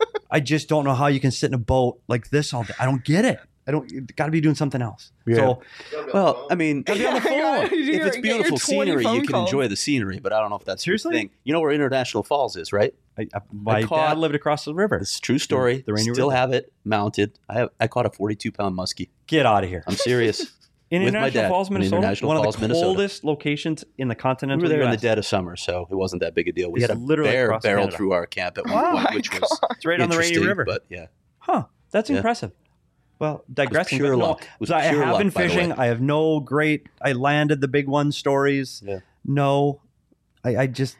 Speaker 3: I just don't know how you can sit in a boat like this all day. I don't get it. Got to be doing something else.
Speaker 2: Yeah.
Speaker 3: So,
Speaker 2: well, I mean,
Speaker 3: gotta be on the phone.
Speaker 2: if it's beautiful scenery, you can enjoy the scenery, but I don't know if that's
Speaker 3: seriously
Speaker 2: your thing. You know where International Falls is, right?
Speaker 3: My dad lived across the river.
Speaker 2: It's a true story.
Speaker 3: The Rainy
Speaker 2: Still
Speaker 3: River.
Speaker 2: have it mounted. I caught a 42-pound muskie.
Speaker 3: Get out of here.
Speaker 2: I'm serious.
Speaker 3: In
Speaker 2: with my
Speaker 3: International
Speaker 2: dad.
Speaker 3: Falls, Minnesota,
Speaker 2: International
Speaker 3: one
Speaker 2: Falls,
Speaker 3: of the
Speaker 2: Minnesota.
Speaker 3: coldest locations in the continental
Speaker 2: We were there in
Speaker 3: US.
Speaker 2: the dead of summer, so it wasn't that big a deal. We
Speaker 3: It's
Speaker 2: had a
Speaker 3: literally
Speaker 2: bear
Speaker 3: across
Speaker 2: barrel
Speaker 3: Canada.
Speaker 2: through our camp at one point, which was
Speaker 3: It's right on the Rainy
Speaker 2: interesting,
Speaker 3: River.
Speaker 2: But yeah,
Speaker 3: That's impressive. Well, digressing.
Speaker 2: pure
Speaker 3: but no,
Speaker 2: luck. It was
Speaker 3: so I
Speaker 2: pure
Speaker 3: have
Speaker 2: luck,
Speaker 3: been
Speaker 2: by the way.
Speaker 3: fishing. I have no great. I landed the big one stories.
Speaker 2: Yeah.
Speaker 3: No, I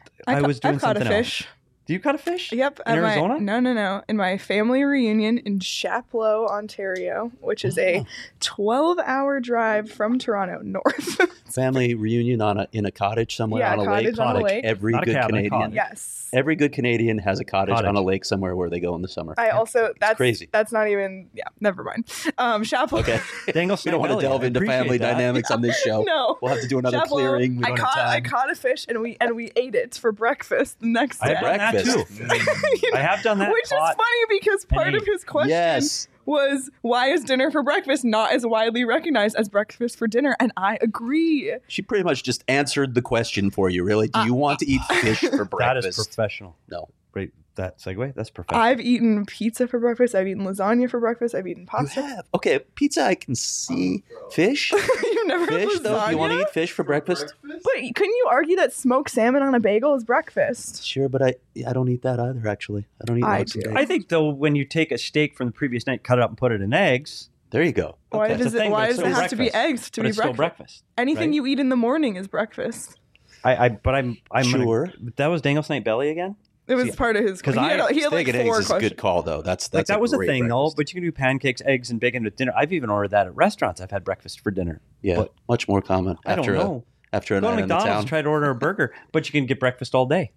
Speaker 3: was doing
Speaker 1: I've caught
Speaker 3: something
Speaker 1: a fish.
Speaker 3: else. Do you caught a fish?
Speaker 1: Yep.
Speaker 3: In Arizona?
Speaker 1: No. In my family reunion in Chapleau, Ontario, which is a 12-hour drive from Toronto north.
Speaker 2: family reunion in a cottage somewhere
Speaker 1: Yeah,
Speaker 2: on a
Speaker 1: cottage on a lake.
Speaker 2: Every
Speaker 3: Not a
Speaker 2: good
Speaker 3: cabin, a
Speaker 2: Canadian,
Speaker 3: cottage.
Speaker 1: Yes.
Speaker 2: every good Canadian has a cottage
Speaker 3: Cottage.
Speaker 2: on a lake somewhere where they go in the summer.
Speaker 1: I also that's
Speaker 2: crazy.
Speaker 1: That's not even never mind. Chapleau.
Speaker 2: Okay,
Speaker 3: Dangle
Speaker 2: we don't want to
Speaker 3: Snapelli.
Speaker 2: delve
Speaker 3: I
Speaker 2: into
Speaker 3: appreciate
Speaker 2: family
Speaker 3: that.
Speaker 2: dynamics on this show.
Speaker 1: No.
Speaker 2: We'll have to do another
Speaker 1: Chapleau,
Speaker 2: clearing. We don't have
Speaker 1: I
Speaker 2: time.
Speaker 1: caught a fish and we ate it for breakfast the next
Speaker 3: I
Speaker 1: day.
Speaker 3: have done that
Speaker 2: Breakfast.
Speaker 3: too. I have done that.
Speaker 1: Which is
Speaker 3: Caught-
Speaker 1: funny because part of his question
Speaker 2: Yes.
Speaker 1: was why is dinner for breakfast not as widely recognized as breakfast for dinner? And I agree.
Speaker 2: She pretty much just answered the question for you, really. Do you want to eat fish for
Speaker 3: That
Speaker 2: breakfast?
Speaker 3: is professional.
Speaker 2: No.
Speaker 3: Great. That segue. That's professional.
Speaker 1: I've eaten pizza for breakfast. I've eaten lasagna for breakfast. I've eaten
Speaker 2: You
Speaker 1: pasta.
Speaker 2: have. Okay, pizza I can see. Fish?
Speaker 1: You've never
Speaker 2: Fish,
Speaker 1: had
Speaker 2: though?
Speaker 1: lasagna?
Speaker 2: Do you want to eat fish for breakfast?
Speaker 1: But couldn't you argue that smoked salmon on a bagel is breakfast?
Speaker 2: Sure, but I don't eat that either, actually. I don't eat
Speaker 1: I
Speaker 2: logs and
Speaker 1: do.
Speaker 2: bacon.
Speaker 3: I think though, when you take a steak from the previous night, cut it up, and put it in eggs.
Speaker 2: There you go.
Speaker 1: Why
Speaker 2: Okay.
Speaker 1: does
Speaker 3: It's a thing, but
Speaker 1: it
Speaker 3: it's still
Speaker 1: have to be
Speaker 3: breakfast.
Speaker 1: eggs to
Speaker 3: But
Speaker 1: be
Speaker 3: it's still breakfast.
Speaker 1: Anything
Speaker 3: right?
Speaker 1: you eat in the morning is breakfast.
Speaker 3: I'm
Speaker 2: Sure.
Speaker 3: That was Dangle Snake Belly again.
Speaker 1: It was
Speaker 3: See,
Speaker 1: part of his.
Speaker 3: 'cause
Speaker 1: He had
Speaker 2: Steak
Speaker 1: like
Speaker 2: and
Speaker 1: 4
Speaker 2: eggs is a
Speaker 1: questions.
Speaker 2: good call, though. That's
Speaker 3: Like that was a
Speaker 2: great
Speaker 3: thing though,
Speaker 2: breakfast.
Speaker 3: but you can do pancakes, eggs, and bacon with dinner. I've even ordered that at restaurants. I've had breakfast for dinner.
Speaker 2: Yeah,
Speaker 3: but
Speaker 2: much more common
Speaker 3: I don't
Speaker 2: after
Speaker 3: know.
Speaker 2: after a
Speaker 3: Go to
Speaker 2: night in the
Speaker 3: McDonald's,
Speaker 2: town.
Speaker 3: try to order a burger, but you can get breakfast all day.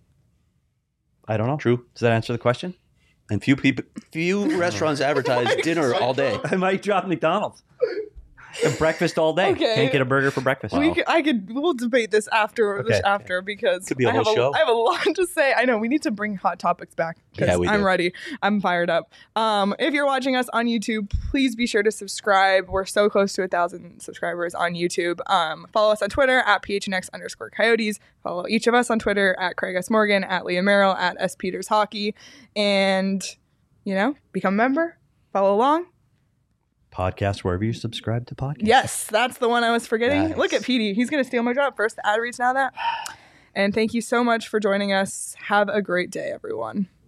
Speaker 3: I don't know.
Speaker 2: True.
Speaker 3: Does that answer the question?
Speaker 2: And few restaurants advertise dinner all day.
Speaker 3: I might drop McDonald's. And breakfast all day.
Speaker 1: Okay.
Speaker 3: Can't get a burger for breakfast.
Speaker 1: We'll debate this after because
Speaker 2: Could be a
Speaker 1: I have
Speaker 2: whole show.
Speaker 1: I have a lot to say. I know we need to bring hot topics back because
Speaker 2: Yeah, we
Speaker 1: I'm
Speaker 2: do.
Speaker 1: ready. I'm fired up. If you're watching us on YouTube, please be sure to subscribe. We're so close to 1,000 subscribers on YouTube. Follow us on Twitter at PHNX_Coyotes. Follow each of us on Twitter at Craig S. Morgan, at Liam Merrill, at S. Peters Hockey, and become a member. Follow along.
Speaker 3: Podcast wherever you subscribe to podcasts.
Speaker 1: Yes, that's the one I was forgetting.
Speaker 2: Nice.
Speaker 1: Look at Petey. He's going to steal my job. First the ad reads, now that. And thank you so much for joining us. Have a great day, everyone.